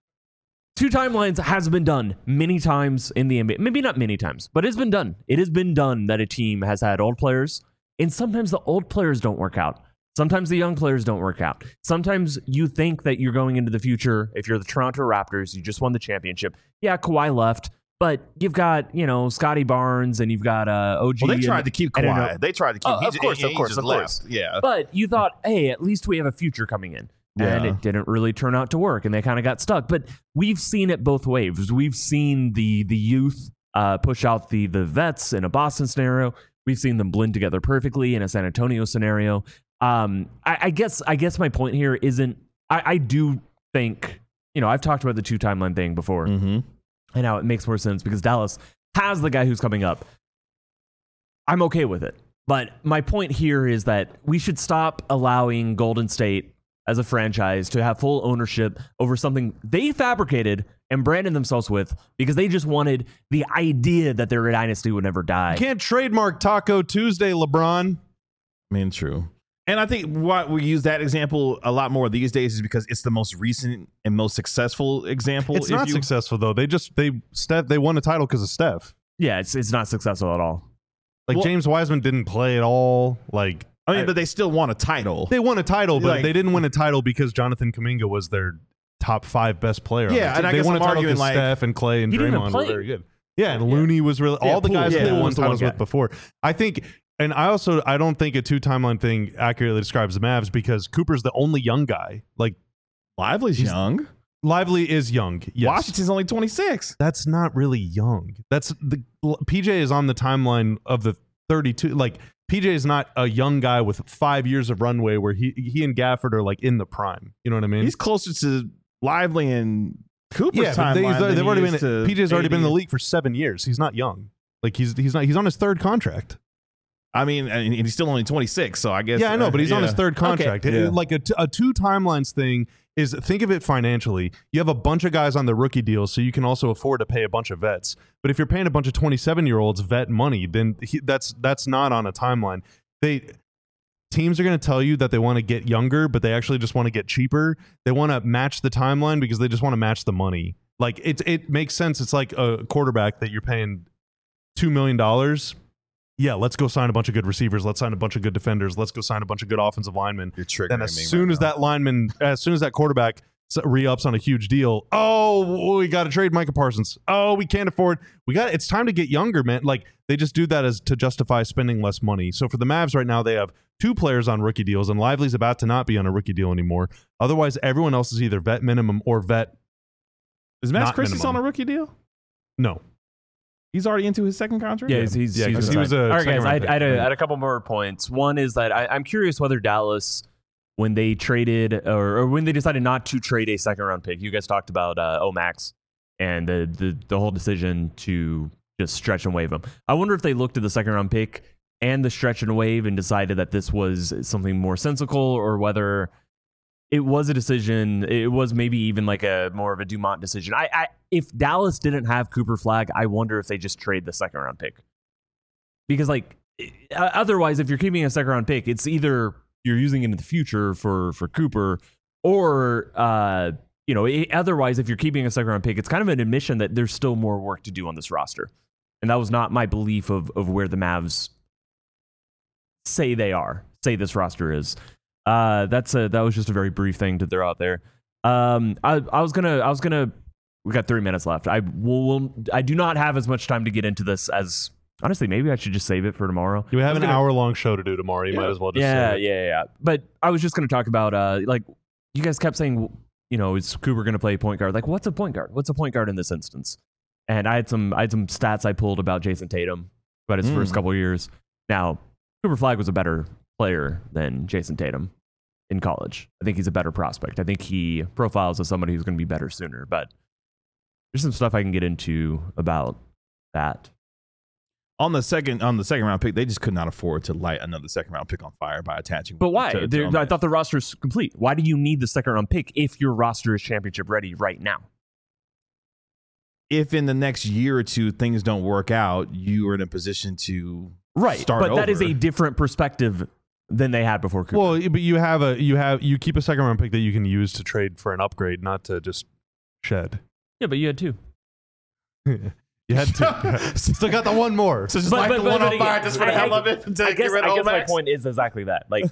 Two timelines has been done many times in the NBA. Maybe not many times, but it's been done. It has been done that a team has had old players, and sometimes the old players don't work out. Sometimes the young players don't work out. Sometimes you think that you're going into the future. If you're the Toronto Raptors, you just won the championship. Yeah, Kawhi left, but you've got, Scotty Barnes and you've got OG. Well, they tried to keep Kawhi. They tried to keep Of course. Yeah. But you thought, hey, at least we have a future coming in. And it didn't really turn out to work, and they kind of got stuck. But we've seen it both ways. We've seen the youth push out the vets in a Boston scenario. We've seen them blend together perfectly in a San Antonio scenario. I guess my point here isn't. I do think I've talked about the two timeline thing before, and now it makes more sense because Dallas has the guy who's coming up. I'm okay with it, but my point here is that we should stop allowing Golden State as a franchise to have full ownership over something they fabricated and branded themselves with because they just wanted the idea that their dynasty would never die. You can't trademark Taco Tuesday, LeBron. I mean, true. And I think why we use that example a lot more these days is because it's the most recent and most successful example. It's not successful though. They won a title because of Steph. Yeah, it's not successful at all. James Wiseman didn't play at all. But they still won a title. They won a title, but they didn't win a title because Jonathan Kuminga was their top 5 best player. Yeah, and I they guess won I'm a title arguing because Steph and Clay and Draymond were very good. Yeah, and Looney was really all the guys that they won titles with before. I think, and I don't think a two timeline thing accurately describes the Mavs because Cooper's the only young guy. Lively's young. Lively is young. Yes. Washington's only 26. That's not really young. PJ is on the timeline of the 32. PJ is not a young guy with 5 years of runway where he and Gafford are like in the prime. You know what I mean? He's closer to Lively and Cooper's timeline. They've already been. PJ's already been in the AD. league for 7 years. He's not young. Like he's on his third contract. I mean, and he's still only 26, so I guess. Yeah, I know, but he's on his third contract. Okay. Yeah. Like a two timelines thing is, think of it financially. You have a bunch of guys on the rookie deals, so you can also afford to pay a bunch of vets. But if you're paying a bunch of 27-year-olds vet money, then that's not on a timeline. Teams are going to tell you that they want to get younger, but they actually just want to get cheaper. They want to match the timeline because they just want to match the money. Like it makes sense. It's like a quarterback that you're paying $2 million. Yeah, let's go sign a bunch of good receivers. Let's sign a bunch of good defenders. Let's go sign a bunch of good offensive linemen. You're triggering then me as soon as that quarterback re-ups on a huge deal, we got to trade Micah Parsons. We can't afford. It's time to get younger, man. Like they just do that as to justify spending less money. So for the Mavs right now, they have 2 players on rookie deals, and Lively's about to not be on a rookie deal anymore. Otherwise, everyone else is either vet minimum or vet. Is Max Christie on a rookie deal? No. He's already into his second contract? Yeah, he was a all right, guys, second-round I pick. had a couple more points. One is that I'm curious whether Dallas, when they traded or when they decided not to trade a second-round pick, you guys talked about Omax and the whole decision to just stretch and waive him. I wonder if they looked at the second-round pick and the stretch and waive and decided that this was something more sensical, or whether it was a decision. It was maybe even like a more of a Dumont decision. If Dallas didn't have Cooper Flagg, I wonder if they just trade the second round pick, because like otherwise, if you're keeping a second round pick, it's either you're using it in the future for Cooper, or otherwise, if you're keeping a second round pick, it's kind of an admission that there's still more work to do on this roster, and that was not my belief of where the Mavs say this roster is. That was just a very brief thing to throw out there. I was gonna. We got 3 minutes left. I do not have as much time to get into this as, honestly, maybe I should just save it for tomorrow. We have an hour-long show to do tomorrow. You might as well just say it. Yeah. But I was just gonna talk about like you guys kept saying, is Cooper gonna play point guard? Like, what's a point guard? What's a point guard in this instance? And I had some stats I pulled about Jason Tatum about his first couple of years. Now, Cooper Flagg was a better player than Jason Tatum in college. I think he's a better prospect. I think he profiles as somebody who's going to be better sooner, but there's some stuff I can get into about that. On the second round pick, they just could not afford to light another second round pick on fire by attaching. But why? I thought the roster is complete. Why do you need the second round pick if your roster is championship ready right now? If in the next year or two things don't work out, you are in a position to start but over. that is a different perspective than they had before Cooper. Well, but you keep a second round pick that you can use to trade for an upgrade, not to just shed. Yeah, but you had 2. You had to. Still got the one more. So just the one on fire just for the hell of it. I guess my point is exactly that. Like,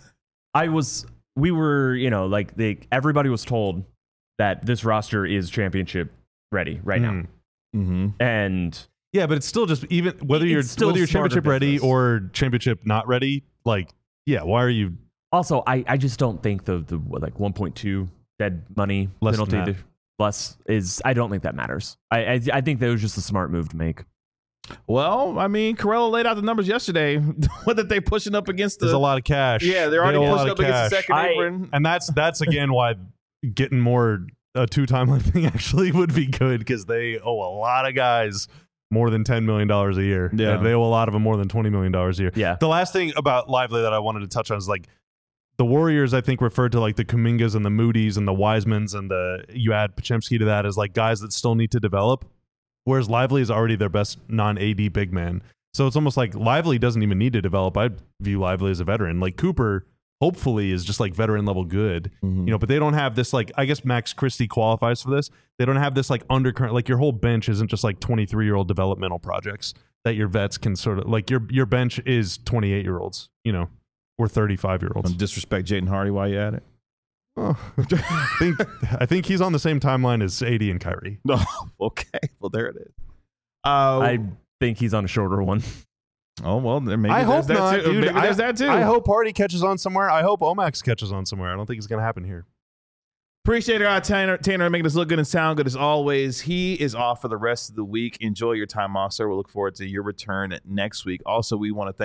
everybody was told that this roster is championship ready right now. Mm-hmm. And yeah, but it's still just, even whether you're championship ready or championship not ready, like, yeah, why are you? Also, I just don't think the 1.2 dead money penalty less is, I don't think that matters. I think that was just a smart move to make. Well, I mean, Corella laid out the numbers yesterday. What that they pushing up against There's a lot of cash. Yeah, they're already pushing up against the second apron. And that's again why getting more a 2-timeline thing actually would be good, because they owe a lot of guys more than $10 million a year. Yeah. And they owe a lot of them more than $20 million a year. Yeah. The last thing about Lively that I wanted to touch on is, like, the Warriors, I think, referred to like the Kumingas and the Moody's and the Wisemans, and you add Podziemski to that as like guys that still need to develop, whereas Lively is already their best non-AD big man. So it's almost like Lively doesn't even need to develop. I view Lively as a veteran. Like Cooper, hopefully, is just like veteran level good, but they don't have this, like, I guess Max Christie qualifies for this. They don't have this like undercurrent, like your whole bench isn't just like 23-year-old developmental projects that your vets can sort of, like your bench is 28-year-olds, or 35-year-olds. Don't disrespect Jaden Hardy while you at it. Oh, I think he's on the same timeline as AD and Kyrie. No, okay. Well, there it is. I think he's on a shorter one. Oh, well, maybe I hope that not, too. dude. Maybe there's that too. I hope Hardy catches on somewhere. I hope Omax catches on somewhere. I don't think it's going to happen here. Appreciate it, Tanner, making us look good and sound good as always. He is off for the rest of the week. Enjoy your time off, sir. We'll look forward to your return next week. Also, we want to thank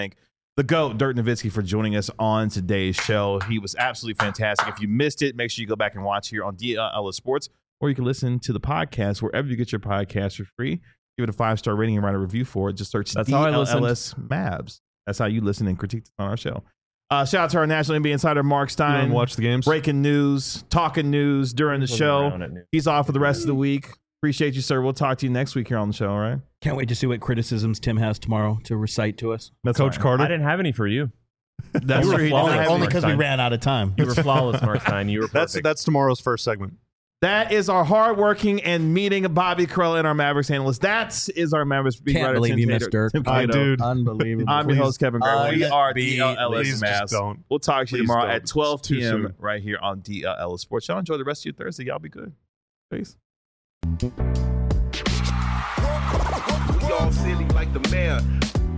the GOAT, Dirk Nowitzki, for joining us on today's show. He was absolutely fantastic. If you missed it, make sure you go back and watch here on DLS Sports, or you can listen to the podcast wherever you get your podcast for free. Give it a 5-star rating and write a review for it. Just search DLS Mavs. That's how you listen and critique on our show. Shout out to our National NBA insider, Mark Stein. Watch the games. Breaking news, talking news during the show. He's off for the rest of the week. Appreciate you, sir. We'll talk to you next week here on the show, all right? Can't wait to see what criticisms Tim has tomorrow to recite to us. That's Coach right. Carter. I didn't have any for you. That's You were true. flawless, Only because we Mark ran out of time. You were flawless, Mark Stein. You were perfect. That's tomorrow's first segment. That is our hardworking and meeting Bobby Carell and our Mavericks analyst. That is our Mavericks beat Can't writer. believe Tim you Tater- missed Dirk. Tim I Cato. dude. Unbelievable. I'm your host, Kevin Gray. We are Please DLS just Mavs. don't. We'll talk to you Please tomorrow don't. at 12 It's too p.m. soon. right here on DLS Sports. Y'all enjoy the rest of your Thursday. Y'all be good. Peace. We all silly like the mayor.